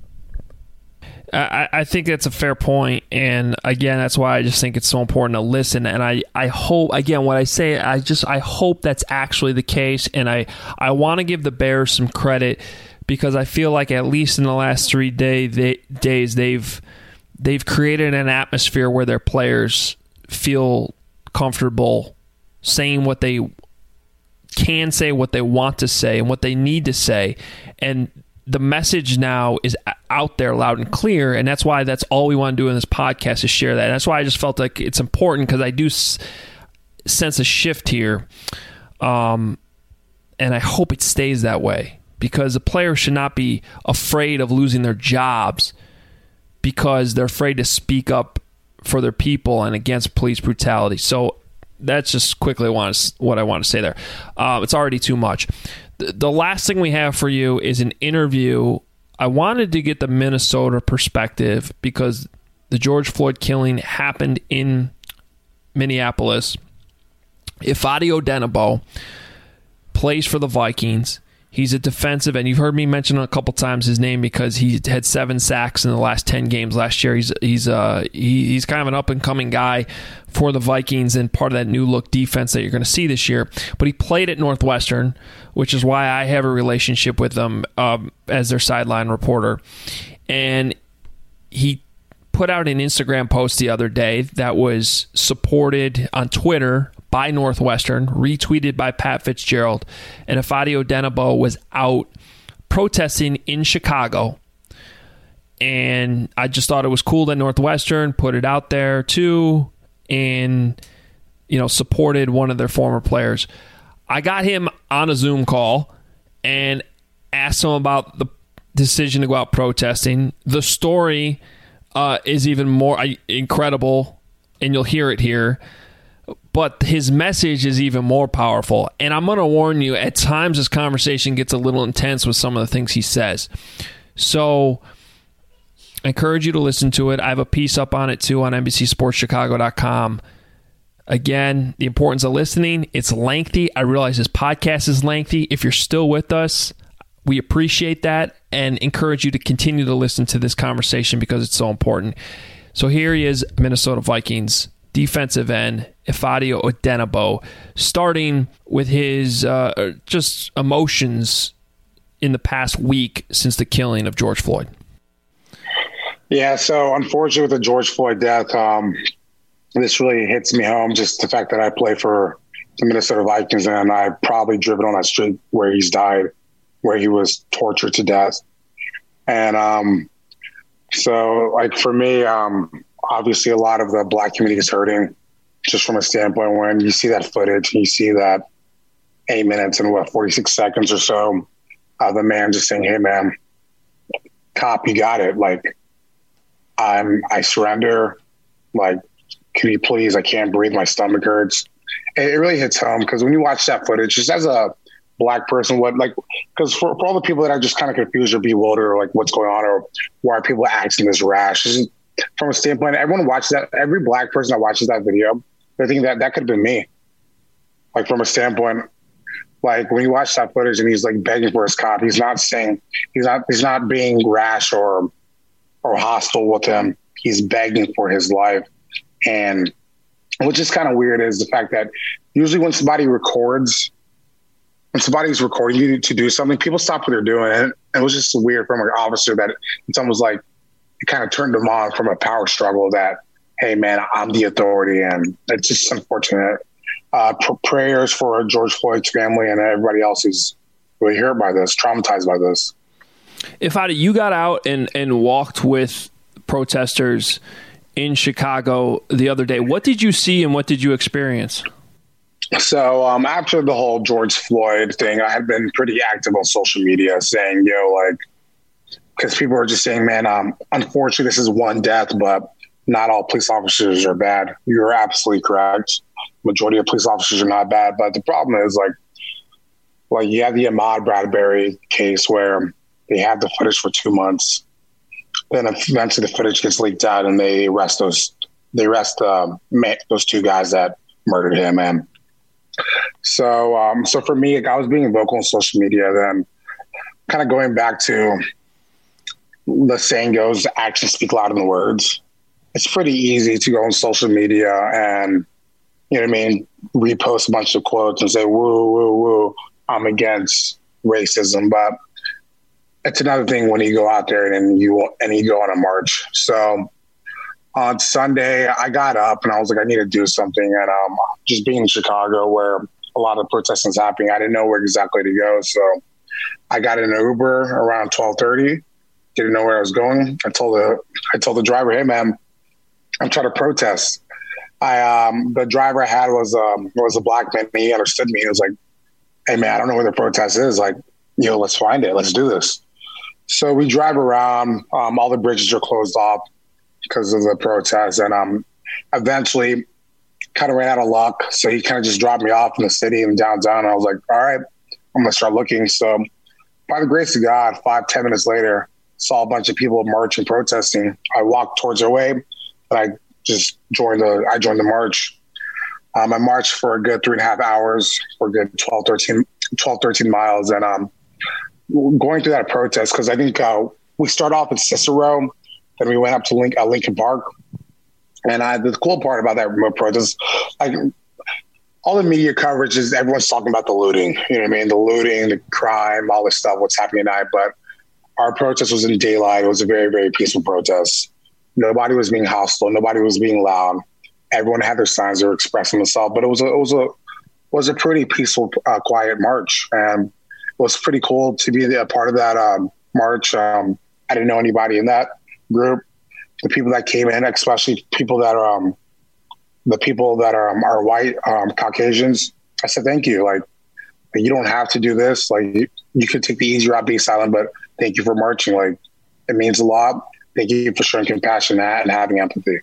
I, I think that's a fair point, and again, that's why I just think it's so important to listen. And I, I hope, again, what I say, I just I hope that's actually the case, and I, I want to give the Bears some credit because I feel like at least in the last three day they, days they've they've created an atmosphere where their players feel comfortable saying what they can say, what they want to say, and what they need to say, and the message now is out there loud and clear, and that's why that's all we want to do in this podcast is share that. And that's why I just felt like it's important, because I do s- sense a shift here, um, and I hope it stays that way, because the players should not be afraid of losing their jobs because they're afraid to speak up for their people and against police brutality. So that's just quickly what I want to say there. Uh, it's already too much. The last thing we have for you is an interview. I wanted to get the Minnesota perspective because the George Floyd killing happened in Minneapolis. Ifeadi Odenigbo plays for the Vikings. He's a defensive end. You've heard me mention a couple times his name because he had seven sacks in the last ten games last year. He's he's uh he, he's kind of an up and coming guy for the Vikings and part of that new look defense that you're going to see this year. But he played at Northwestern, which is why I have a relationship with them um, as their sideline reporter. And he put out an Instagram post the other day that was supported on Twitter by Northwestern, retweeted by Pat Fitzgerald, and Ifeadi Odenigbo was out protesting in Chicago. And I just thought it was cool that Northwestern put it out there too, and you know, supported one of their former players. I got him on a Zoom call and asked him about the decision to go out protesting. The story uh, is even more incredible, and you'll hear it here. But his message is even more powerful. And I'm going to warn you, at times this conversation gets a little intense with some of the things he says. So I encourage you to listen to it. I have a piece up on it too on N B C Sports Chicago dot com. Again, the importance of listening. It's lengthy. I realize this podcast is lengthy. If you're still with us, we appreciate that and encourage you to continue to listen to this conversation because it's so important. So here he is, Minnesota Vikings defensive end, Ifeadi Odenigbo, starting with his uh, just emotions in the past week since the killing of George Floyd. Yeah, so unfortunately with the George Floyd death, um, this really hits me home, just the fact that I play for the Minnesota Vikings and I've probably driven on that street where he's died, where he was tortured to death. And um, so, like, for me, um, obviously a lot of the Black community is hurting just from a standpoint when you see that footage and you see that eight minutes and what, forty-six seconds or so of the man just saying, hey man, cop, you got it. Like, I'm, I surrender. Like, can you please, I can't breathe. My stomach hurts. It, it really hits home because when you watch that footage, just as a Black person, what, like, because for, for all the people that are just kind of confused or bewildered or like what's going on or why are people acting this rash, just from a standpoint, everyone watches that. Every Black person that watches that video, they think that that could have been me. Like, from a standpoint, like when you watch that footage and he's like begging for his cop, he's not saying he's not he's not being rash or or hostile with him. He's begging for his life. And what's just kind of weird is the fact that usually when somebody records, when somebody's recording you to do something, people stop what they're doing. And it was just weird from an officer that it's almost like it kind of turned them on from a power struggle that, hey, man, I'm the authority. And it's just unfortunate. Uh, pr- prayers for George Floyd's family and everybody else who's really hurt by this, traumatized by this. Ifeadi, you got out and, and walked with protesters in Chicago the other day. What did you see and what did you experience? So um, after the whole George Floyd thing, I had been pretty active on social media saying, yo, like, because people are just saying, man, um, unfortunately, this is one death, but not all police officers are bad. You're absolutely correct. Majority of police officers are not bad. But the problem is, like, like you have the Ahmaud Bradbury case where they have the footage for two months. Then eventually the footage gets leaked out and they arrest those, they arrest um, those two guys that murdered him. And so, um, so for me, like, I was being vocal on social media, then kind of going back to the saying goes, actions speak louder than words. It's pretty easy to go on social media and, you know what I mean, repost a bunch of quotes and say, woo, woo, woo, I'm against racism. But it's another thing when you go out there and you and you go on a march. So on Sunday, I got up and I was like, I need to do something. And um, just being in Chicago where a lot of protesting is happening, I didn't know where exactly to go. So I got in an Uber around twelve thirty. Didn't know where I was going. I told the I told the driver, "Hey, man, I'm trying to protest." I um, the driver I had was um, was a black man. He understood me. He was like, "Hey, man, I don't know where the protest is. Like, you know, let's find it. Let's do this." So we drive around. Um, all the bridges are closed off because of the protest, and um, eventually, kind of ran out of luck. So he kind of just dropped me off in the city and downtown. And I was like, "All right, I'm gonna start looking." So, by the grace of God, five ten minutes later, saw a bunch of people marching, protesting. I walked towards their way, and I just joined the. I joined the march. Um, I marched for a good three and a half hours, for a good twelve, thirteen, twelve, thirteen miles, and um, going through that protest because I think uh, we started off at Cicero, then we went up to Link, uh, Lincoln Park, and I, the cool part about that remote protest, like all the media coverage is everyone's talking about the looting. You know what I mean? The looting, the crime, all this stuff, what's happening at night, but our protest was in daylight. It was a very, very peaceful protest. Nobody was being hostile. Nobody was being loud. Everyone had their signs. They were expressing themselves. But it was a, it was a, was a pretty peaceful, uh, quiet march. And it was pretty cool to be a part of that um, march. Um, I didn't know anybody in that group. The people that came in, especially people that are, um, the people that are, um, are white, um, Caucasians, I said, thank you. Like, you don't have to do this. Like, you, you could take the easy route, be silent, but thank you for marching. Like, it means a lot. Thank you for showing compassion and having empathy.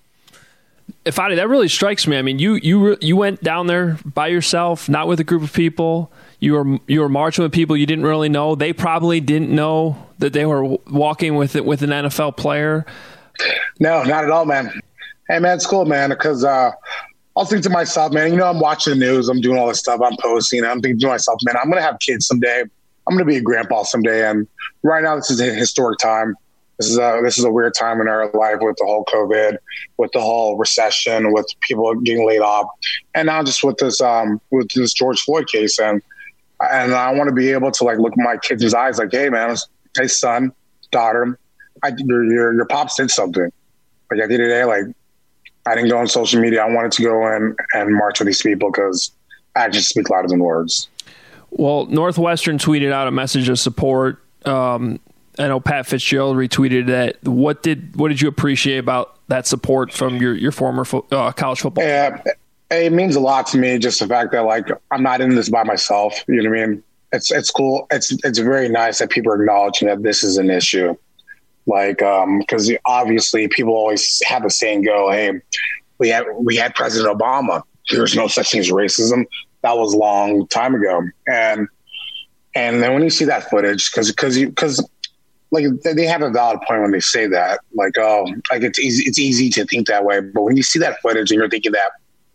Fadi, that really strikes me. I mean, you you you went down there by yourself, not with a group of people. You were you were marching with people you didn't really know. They probably didn't know that they were walking with it with an N F L player. No, not at all, man. Hey, man, it's cool, man, because uh, I'll think to myself, man, you know, I'm watching the news. I'm doing all this stuff. I'm posting. I'm thinking to myself, man, I'm going to have kids someday. I'm going to be a grandpa someday. And right now, this is a historic time. This is a this is a weird time in our life with the whole COVID, with the whole recession, with people getting laid off, and now just with this um with this George Floyd case, and and I want to be able to like look at my kids' eyes, like, hey man, hey son, daughter, I, your your your pops did something. Like at the end of the day, like I didn't go on social media. I wanted to go in and march with these people because actions speak louder than words. Well, Northwestern tweeted out a message of support. Um, I know Pat Fitzgerald retweeted that. What did what did you appreciate about that support from your your former fo- uh, college football? Yeah, it means a lot to me. Just the fact that like I'm not in this by myself. You know what I mean? It's it's cool. It's it's very nice that people are acknowledging that this is an issue. Like, um, because obviously people always have the saying go, "Hey, we had we had President Obama. There's no such thing as racism." That was a long time ago, and and then when you see that footage, because because you because. Like they have a valid point when they say that, like, oh, like it's easy, it's easy to think that way. But when you see that footage and you're thinking that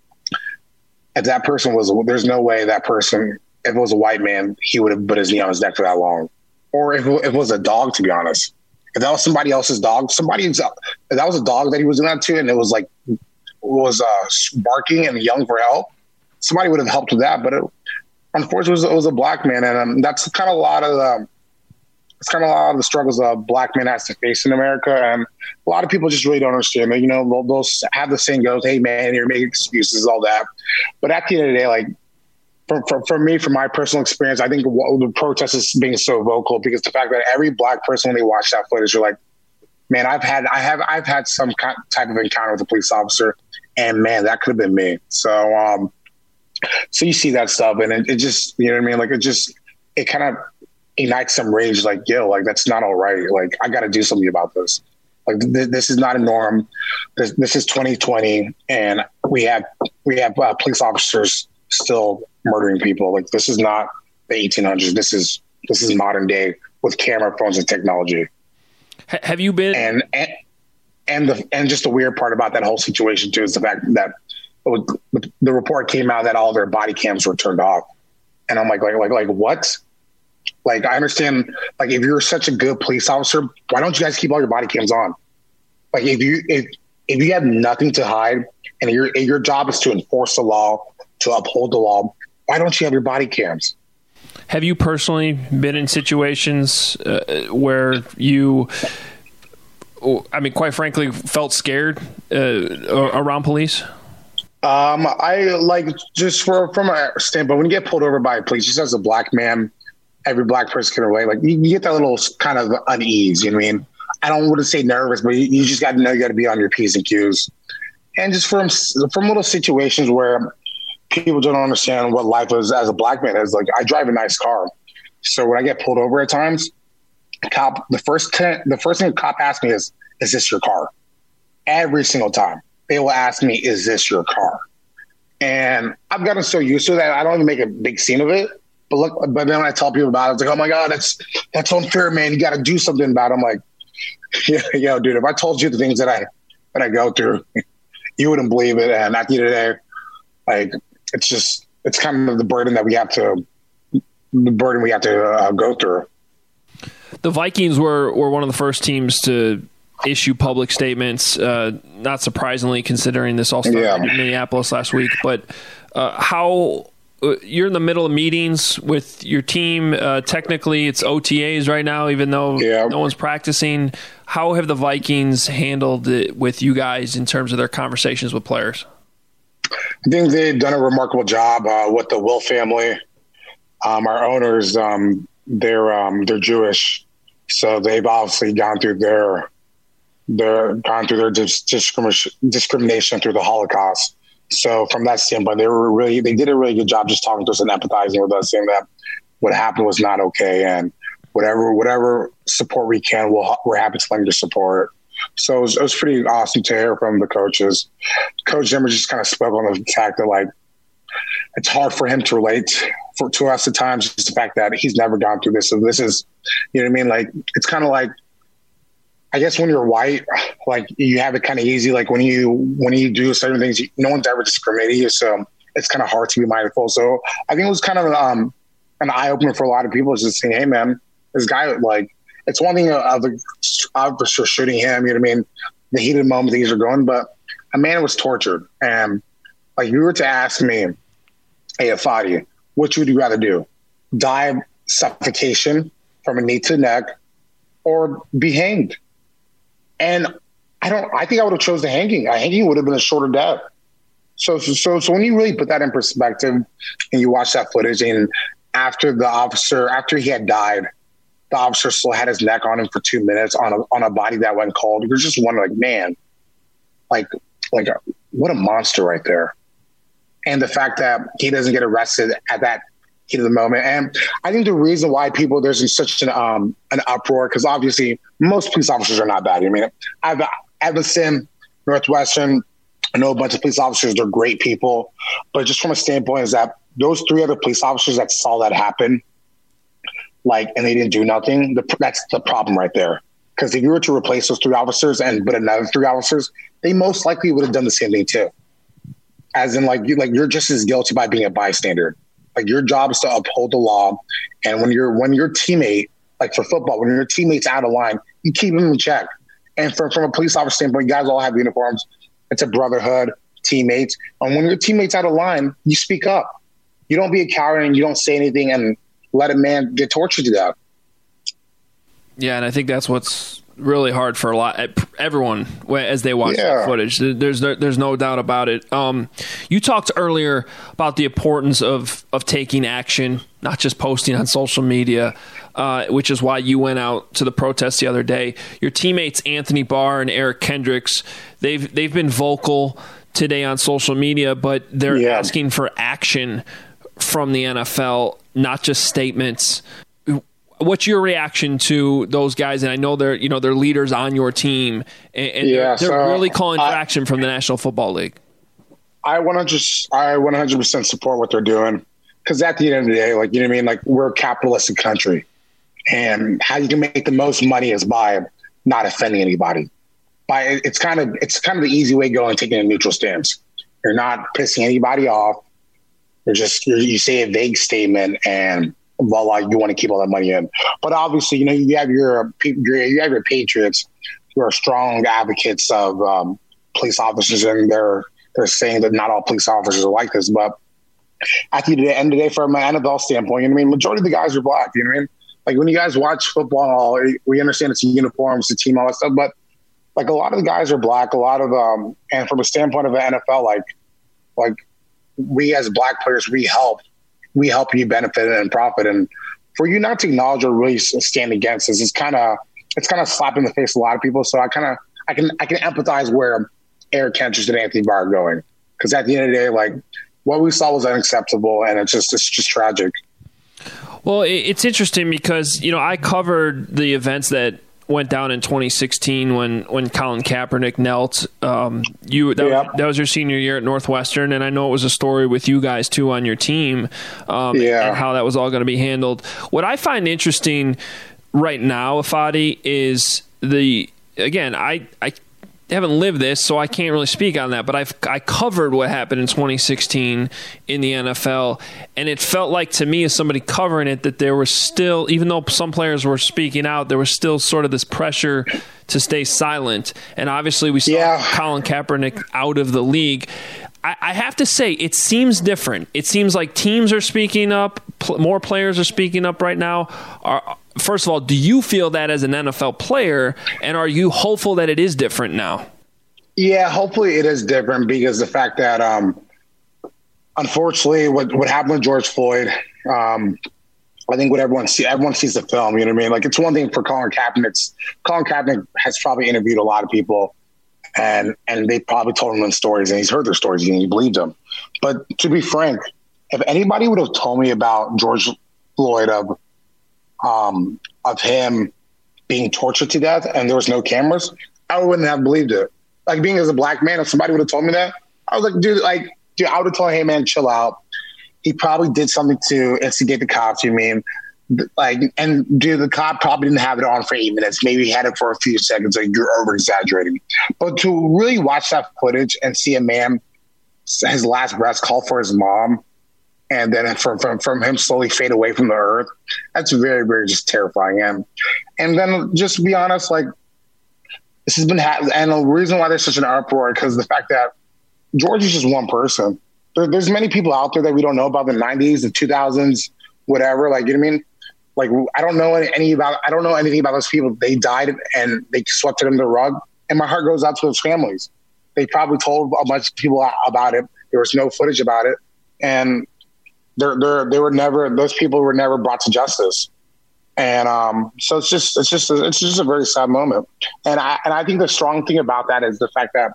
if that person was, there's no way that person, if it was a white man, he would have put his knee on his neck for that long. Or if it was a dog, to be honest, if that was somebody else's dog, somebody, if that was a dog that he was doing that to, and it was like, was uh, barking and yelling for help, somebody would have helped with that. But it, unfortunately, it was, it was a black man. And um, that's kind of a lot of the, It's kind of a lot of the struggles a black man has to face in America. And a lot of people just really don't understand it. You know, they'll, they'll have the saying goes, hey, man, you're making excuses, all that. But at the end of the day, like, for, for, for me, from my personal experience, I think the protest is being so vocal because the fact that every black person, when they watch that footage, you're like, man, I've had I have, I've had some type of encounter with a police officer, and, man, that could have been me. So, um, so you see that stuff, and it, it just, you know what I mean? Like, it just, it kind of ignites some rage, like, yo, like, that's not all right. Like, I got to do something about this. Like, th- this is not a norm. This, this is twenty twenty, and we have we have uh, police officers still murdering people. Like, this is not the eighteen hundreds. This is this is modern day with camera phones and technology. H- have you been and and and the and just the weird part about that whole situation too is the fact that it was, the report came out that all their body cams were turned off, and I'm like, like, like, like, what? Like, I understand, like, if you're such a good police officer, why don't you guys keep all your body cams on? Like, if you if if you have nothing to hide and your your job is to enforce the law, to uphold the law, why don't you have your body cams? Have you personally been in situations uh, where you, I mean, quite frankly, felt scared uh, around police? Um, I like just for from a standpoint, when you get pulled over by police, just as a black man, every black person can relate. Like you, you get that little kind of unease. You know what I mean? I don't want to say nervous, but you, you just got to know you got to be on your P's and Q's. And just from from little situations where people don't understand what life is as a black man is. Like I drive a nice car, so when I get pulled over at times, cop the first ten, the first thing the cop asks me is, "Is this your car?" Every single time they will ask me, "Is this your car?" And I've gotten so used to that I don't even make a big scene of it. But look, but then when I tell people about it, it's like, "Oh my god, that's that's unfair, man. You got to do something about it." I'm like, yeah, yo, dude, if I told you the things that I that I go through, you wouldn't believe it. And at the end of the day, like it's just it's kind of the burden that we have to the burden we have to uh, go through. The Vikings were were one of the first teams to issue public statements, uh, not surprisingly considering this all started yeah. in Minneapolis last week. But uh, how uh, you're in the middle of meetings with your team. Uh, technically, it's O T As right now, even though yeah. no one's practicing. How have the Vikings handled it with you guys in terms of their conversations with players? I think they've done a remarkable job uh, with the Will family. Um, our owners, um, they're um, they're Jewish, so they've obviously gone through their their gone through their dis- discrimination discrimination through the Holocaust. So from that standpoint, they were really they did a really good job just talking to us and empathizing with us, saying that what happened was not okay, and whatever whatever support we can, we'll, we're happy to lend your support. So it was, it was pretty awesome to hear from the coaches. Coach Zimmer just kind of spoke on the fact that like it's hard for him to relate for, to us at times. Just the fact that he's never gone through this. So this is, you know what I mean? Like it's kind of like, I guess when you're white, like you have it kind of easy. Like when you when you do certain things, no one's ever discriminating you, so it's kind of hard to be mindful. So I think it was kind of um, an eye opener for a lot of people, is just saying, "Hey, man, this guy like." It's one thing of the officer shooting him, you know what I mean? The heated moment things are going, but a man was tortured. And like you were to ask me, hey, Afadi, what would you rather do? Die of suffocation from a knee to neck or be hanged? And I don't, I think I would have chose the hanging. A hanging would have been a shorter death. So, so, so, so when you really put that in perspective and you watch that footage, and after the officer, after he had died, the officer still had his neck on him for two minutes on a on a body that went cold. You're just wondering, like, man, like, like, what a monster right there. And the fact that he doesn't get arrested at that heat of the moment. And I think the reason why people, there's such an um an uproar, because obviously most police officers are not bad. I mean, I've Evanston, Northwestern, I know a bunch of police officers, they're great people. But just from a standpoint is that those three other police officers that saw that happen, like, and they didn't do nothing, the, that's the problem right there. Because if you were to replace those three officers and put another three officers, they most likely would have done the same thing too. As in, like, you, like you're just as guilty by being a bystander. Like, your job is to uphold the law. And when you're when your teammate, like for football, when your teammate's out of line, you keep them in check. And from, from a police officer standpoint, you guys all have uniforms. It's a brotherhood, teammates. And when your teammate's out of line, you speak up. You don't be a coward and you don't say anything and let a man get tortured to death. Yeah, and I think that's what's really hard for a lot everyone as they watch yeah. the footage. There's no, there's no doubt about it. Um, you talked earlier about the importance of of taking action, not just posting on social media, uh, which is why you went out to the protest the other day. Your teammates Anthony Barr and Eric Kendricks, they've they've been vocal today on social media, but they're yeah. asking for action from the N F L, not just statements. What's your reaction to those guys? And I know they're, you know, they're leaders on your team, and, and yeah, they're, they're so really calling for I, action from the National Football League. I one hundred, I one hundred percent support what they're doing, because at the end of the day, like, you know what I mean, like, we're a capitalistic country, and how you can make the most money is by not offending anybody. By it's kind of it's kind of the easy way going, taking a neutral stance. You're not pissing anybody off. You're just you're, you say a vague statement and voila, you want to keep all that money in. But obviously, you know, you have your you have your patriots who are strong advocates of um, police officers, and they're they're saying that not all police officers are like this. But at the end of the day, from an N F L standpoint, you know what I mean, majority of the guys are black. You know what I mean? Like, when you guys watch football, we understand it's a uniform, it's a team, all that stuff. But like, a lot of the guys are black. A lot of um, and from a standpoint of the N F L, like like we as black players, we help. We help you benefit and profit. And for you not to acknowledge or really stand against this, it's kind of it's kind of slap in the face of a lot of people. So I kind of I can I can empathize where Eric Kendricks and Anthony Barr are going, because at the end of the day, like what we saw was unacceptable, and it's just it's just tragic. Well, it's interesting because, you know, I covered the events that went down in twenty sixteen when, when Colin Kaepernick knelt. Um, you that, yeah. was, that was your senior year at Northwestern, and I know it was a story with you guys too on your team, um, yeah. and how that was all going to be handled. What I find interesting right now, Ifeadi, is the again I I. haven't lived this, so I can't really speak on that, but I've I covered what happened in twenty sixteen in the N F L, and it felt like to me as somebody covering it that there was still, even though some players were speaking out, there was still sort of this pressure to stay silent. And obviously we saw yeah. Colin Kaepernick out of the league. I, I have to say, it seems different. It seems like teams are speaking up, pl- more players are speaking up right now. Are First of all, do you feel that as an N F L player, and are you hopeful that it is different now? Yeah, hopefully it is different, because the fact that, um, unfortunately, what, what happened with George Floyd, um, I think what everyone see, everyone sees the film. You know what I mean? Like, it's one thing for Colin Kaepernick. Colin Kaepernick has probably interviewed a lot of people, and and they probably told him them stories, and he's heard their stories, and he believed them. But to be frank, if anybody would have told me about George Floyd of Um, of him being tortured to death and there was no cameras, I wouldn't have believed it. Like, being as a black man, if somebody would have told me that, I was like, dude, like, dude, I would have told him, hey, man, chill out. He probably did something to instigate the cops, you mean? Like, and dude, the cop probably didn't have it on for eight minutes. Maybe he had it for a few seconds. Like, you're over exaggerating. But to really watch that footage and see a man, his last breath, call for his mom, and then from, from from him slowly fade away from the earth, that's very, very just terrifying. And and then just to be honest, like, this has been ha- and the reason why there's such an uproar, because the fact that George is just one person. There, there's many people out there that we don't know about, the nineties, the two thousands, whatever. Like, you know what I mean? Like, I don't know any, any about I don't know anything about those people. They died and they swept it under the rug, and my heart goes out to those families. They probably told a bunch of people about it. There was no footage about it, and They're, they're, they were never, those people were never brought to justice. And um, so it's just, it's just, a, it's just a very sad moment. And I, and I think the strong thing about that is the fact that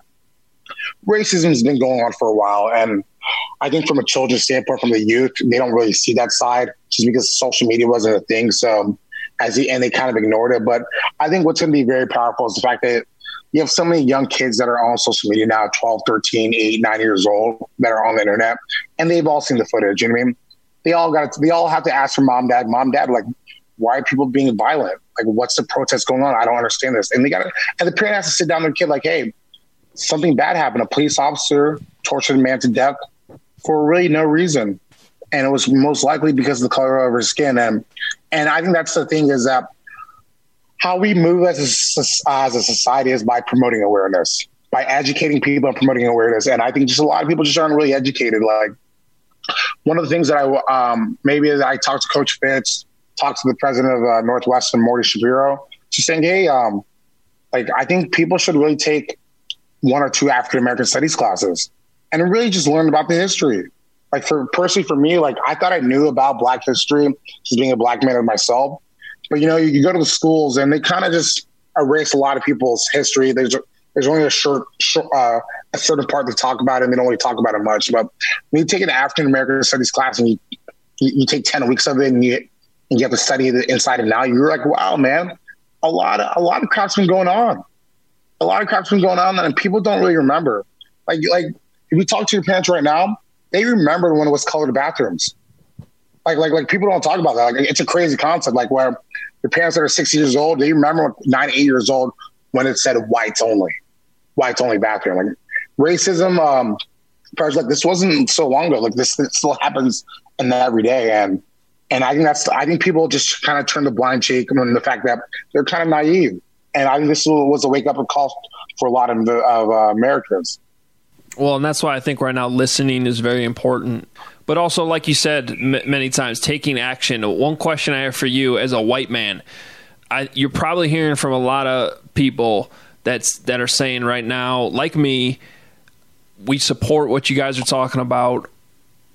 racism has been going on for a while. And I think from a children's standpoint, from the youth, they don't really see that side just because social media wasn't a thing. So as the, and they kind of ignored it. But I think what's going to be very powerful is the fact that you have so many young kids that are on social media now, twelve, thirteen, eight, nine years old, that are on the internet, and they've all seen the footage. You know what I mean? They all got, they all have to ask for mom, dad, mom, dad, like, why are people being violent? Like, what's the protest going on? I don't understand this. And they got to, and the parent has to sit down with the kid, like, hey, something bad happened. A police officer tortured a man to death for really no reason. And it was most likely because of the color of her skin. And, and I think that's the thing, is that how we move as a, as a society is by promoting awareness, by educating people and promoting awareness. And I think just a lot of people just aren't really educated. Like, one of the things that I um, maybe as I talked to Coach Fitz, talked to the president of uh, Northwestern, Morty Shapiro, just saying, hey, um, like, I think people should really take one or two African American studies classes and really just learn about the history. Like, for personally for me, like, I thought I knew about Black history, just being a Black man myself. But, you know, you, you go to the schools and they kind of just erase a lot of people's history. There's there's only a short, short uh, a certain part to talk about, and they don't really talk about it much. But when you take an African American studies class and you, you you take ten weeks of it and you and you have to study the inside and out, you're like, wow, man, a lot of a lot of crap's been going on. A lot of crap's been going on, and people don't really remember. Like like if you talk to your parents right now, they remember when it was colored bathrooms. Like, like, like people don't talk about that. Like, it's a crazy concept. Like, where your parents that are six years old, they remember nine, eight years old when it said whites only, whites only bathroom. Like, racism, um, like this wasn't so long ago. Like, this, this still happens in every day, and and I think that's I think people just kind of turn the blind cheek on the fact that they're kind of naive. And I think this was a wake up call for a lot of the, of uh, Americans. Well, and that's why I think right now listening is very important. But also, like you said m- many times, taking action. One question I have for you as a white man, I, you're probably hearing from a lot of people that's that are saying right now, like me, we support what you guys are talking about.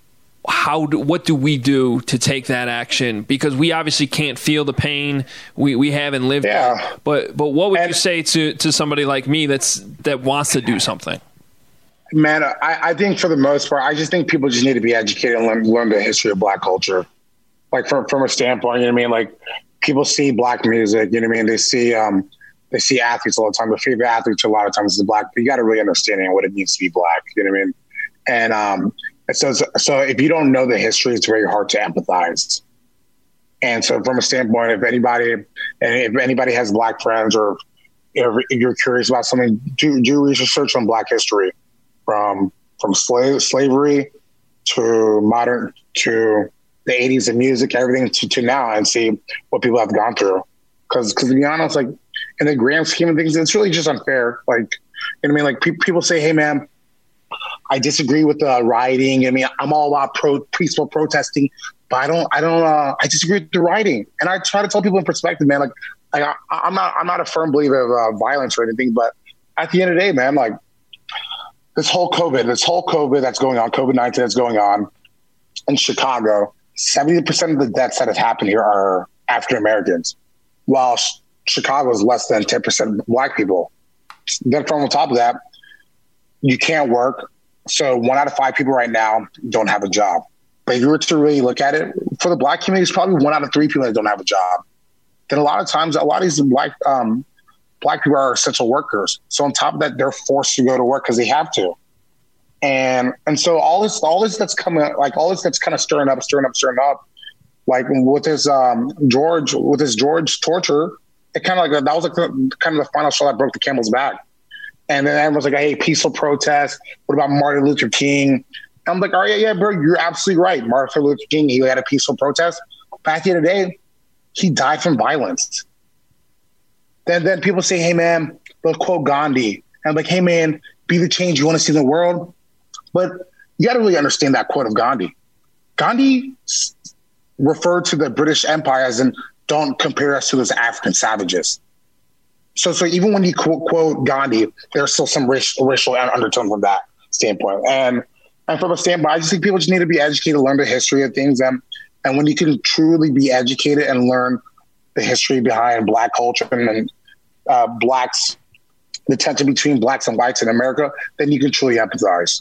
how do, what do we do to take that action? Because we obviously can't feel the pain. We we haven't lived yeah. it. But but what would and, you say to, to somebody like me that's that wants to do something? Man, I, I think for the most part, I just think people just need to be educated and learn, learn the history of Black culture. Like from from a standpoint, you know what I mean? Like people see Black music, you know what I mean? They see um they see athletes all the time. The favorite athletes a lot of times is Black. But you got to really understand what it means to be Black. You know what I mean? And um, so so if you don't know the history, it's very hard to empathize. And so from a standpoint, if anybody and if anybody has Black friends or if you're curious about something, do do research on Black history. From from slave slavery to modern to the eighties and music, everything to, to now, and see what people have gone through. Because because to be honest, like in the grand scheme of things, it's really just unfair. Like you know what I mean? Like pe- people say, "Hey, man, I disagree with the rioting. I mean, I'm all about pro- peaceful protesting, but I don't, I don't, uh, I disagree with the rioting." And I try to tell people in perspective, man. Like, like I, I'm not, I'm not a firm believer of uh, violence or anything, but at the end of the day, man, like. This whole COVID, this whole COVID that's going on, COVID nineteen that's going on in Chicago, seventy percent of the deaths that have happened here are African Americans, while Chicago is less than ten percent Black people. Then from on top of that, you can't work. So one out of five people right now don't have a job. But if you were to really look at it, for the Black community, it's probably one out of three people that don't have a job. Then a lot of times, a lot of these Black um, Black people are essential workers. So on top of that, they're forced to go to work because they have to. And and so all this all this that's coming, like all this that's kind of stirring up, stirring up, stirring up, like with this um, George, with this George torture, it kind of like, that was like the, kind of the final straw that broke the camel's back. And then everyone's like, hey, peaceful protest. What about Martin Luther King? And I'm like, all right, yeah, bro, you're absolutely right. Martin Luther King, he had a peaceful protest. But at the end of the day, he died from violence. Then then people say, hey, man, they'll quote Gandhi. And I'm like, hey, man, be the change you want to see in the world. But you got to really understand that quote of Gandhi. Gandhi referred to the British Empire as in, don't compare us to those African savages. So so even when you quote, quote Gandhi, there's still some racial, racial undertone from that standpoint. And and from a standpoint, I just think people just need to be educated, learn the history of things. And, and when you can truly be educated and learn the history behind Black culture and uh, Blacks, the tension between Blacks and whites in America, then you can truly empathize.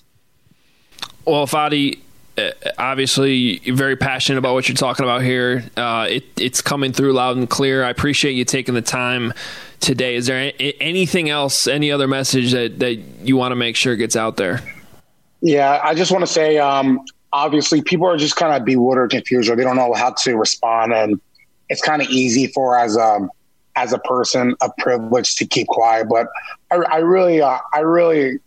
Well, Fadi, obviously you're very passionate about what you're talking about here. Uh, it, it's coming through loud and clear. I appreciate you taking the time today. Is there anything else, any other message that, that you want to make sure gets out there? Yeah, I just want to say, um, obviously people are just kind of bewildered, confused, or they don't know how to respond. And it's kind of easy for as a, as a person of privilege to keep quiet. But I, I really, uh, I really,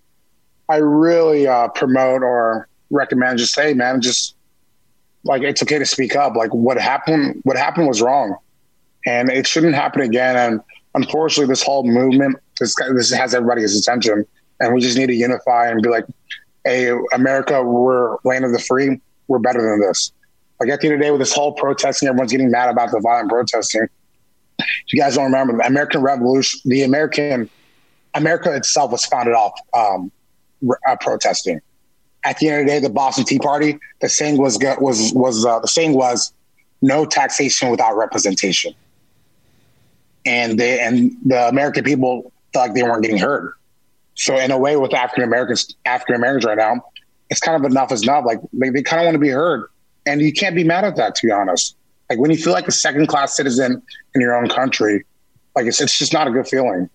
I really uh, promote or recommend just say, man, just like, it's okay to speak up. Like what happened, what happened was wrong and it shouldn't happen again. And unfortunately this whole movement, this, this has everybody's attention and we just need to unify and be like, hey, America, we're land of the free. We're better than this. Like at the end of the day with this whole protesting, everyone's getting mad about the violent protesting. If you guys don't remember the American Revolution, the American, America itself was founded off um, uh, protesting. At the end of the day, the Boston Tea Party, the saying was was was uh, the saying was no taxation without representation, and they and the American people felt like they weren't getting heard. So in a way, with African Americans, African Americans right now, it's kind of enough is enough. Like they, they kind of want to be heard, and you can't be mad at that. To be honest, like when you feel like a second class citizen in your own country, like it's it's just not a good feeling.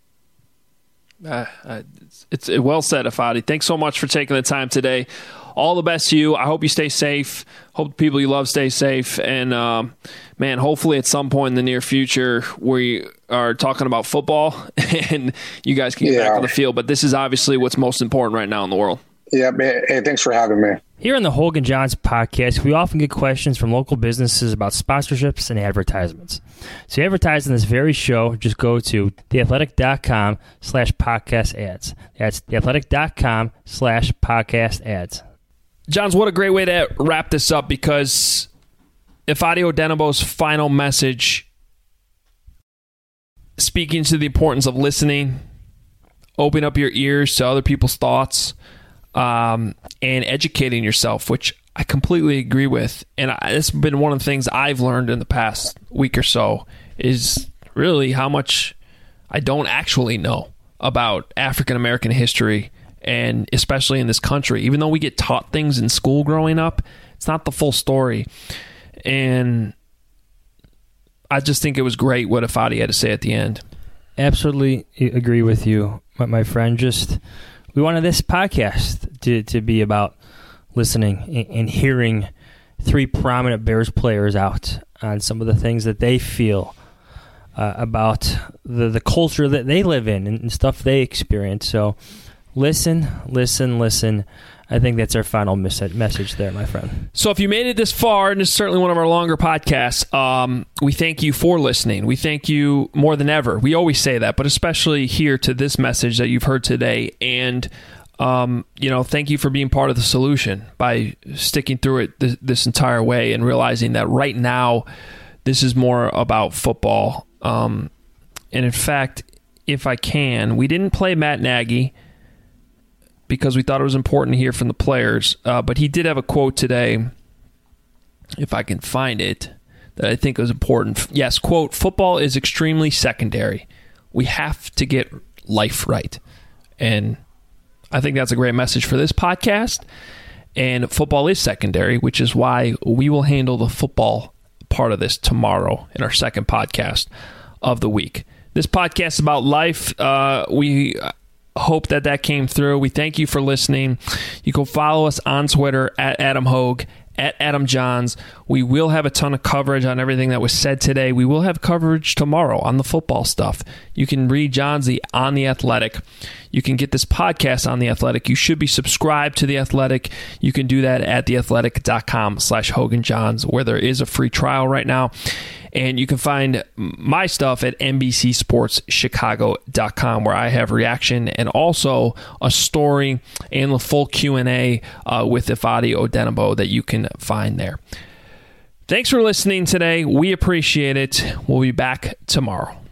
Uh, uh, it's, it's well said, Afadi. Thanks so much for taking the time today. All the best to you. I hope you stay safe. Hope the people you love stay safe. And, um, man, hopefully at some point in the near future we are talking about football and you guys can get yeah. back on the field. But this is obviously what's most important right now in the world. Yeah, hey, thanks for having me. Here on the Hogan Johns podcast, we often get questions from local businesses about sponsorships and advertisements. So you advertise in this very show, just go to theathletic.com slash podcast ads. That's theathletic.com slash podcast ads. Johns, what a great way to wrap this up, because Ifeadi Odenigbo's final message, speaking to the importance of listening, open up your ears to other people's thoughts, Um, and educating yourself, which I completely agree with. And I, it's been one of the things I've learned in the past week or so is really how much I don't actually know about African American history, and especially in this country. Even though we get taught things in school growing up, it's not the full story. And I just think it was great what Ifeadi had to say at the end. Absolutely agree with you, my friend. Just we wanted this podcast to, to be about listening and hearing three prominent Bears players out on some of the things that they feel uh, about the, the culture that they live in and stuff they experience. So listen, listen, listen. I think that's our final mes- message there, my friend. So if you made it this far, and it's certainly one of our longer podcasts, um, we thank you for listening. We thank you more than ever. We always say that, but especially here to this message that you've heard today. And, um, you know, thank you for being part of the solution by sticking through it th- this entire way and realizing that right now this is more about football. Um, and in fact, if I can, we didn't play Matt Nagy because we thought it was important to hear from the players. Uh, but he did have a quote today, if I can find it, that I think was important. Yes, quote, "Football is extremely secondary. We have to get life right." And I think that's a great message for this podcast. And football is secondary, which is why we will handle the football part of this tomorrow in our second podcast of the week. This podcast is about life. Uh, we hope that that came through. We thank you for listening. You can follow us on Twitter at Adam Hogue, at Adam Johns. We will have a ton of coverage on everything that was said today. We will have coverage tomorrow on the football stuff. You can read Johnsy on The Athletic. You can get this podcast on The Athletic. You should be subscribed to The Athletic. You can do that at theathletic.com slash Hogan Johns, where there is a free trial right now. And you can find my stuff at N B C Sports Chicago dot com, where I have reaction and also a story and the full Q and A uh, with Ifeadi Odenigbo that you can find there. Thanks for listening today. We appreciate it. We'll be back tomorrow.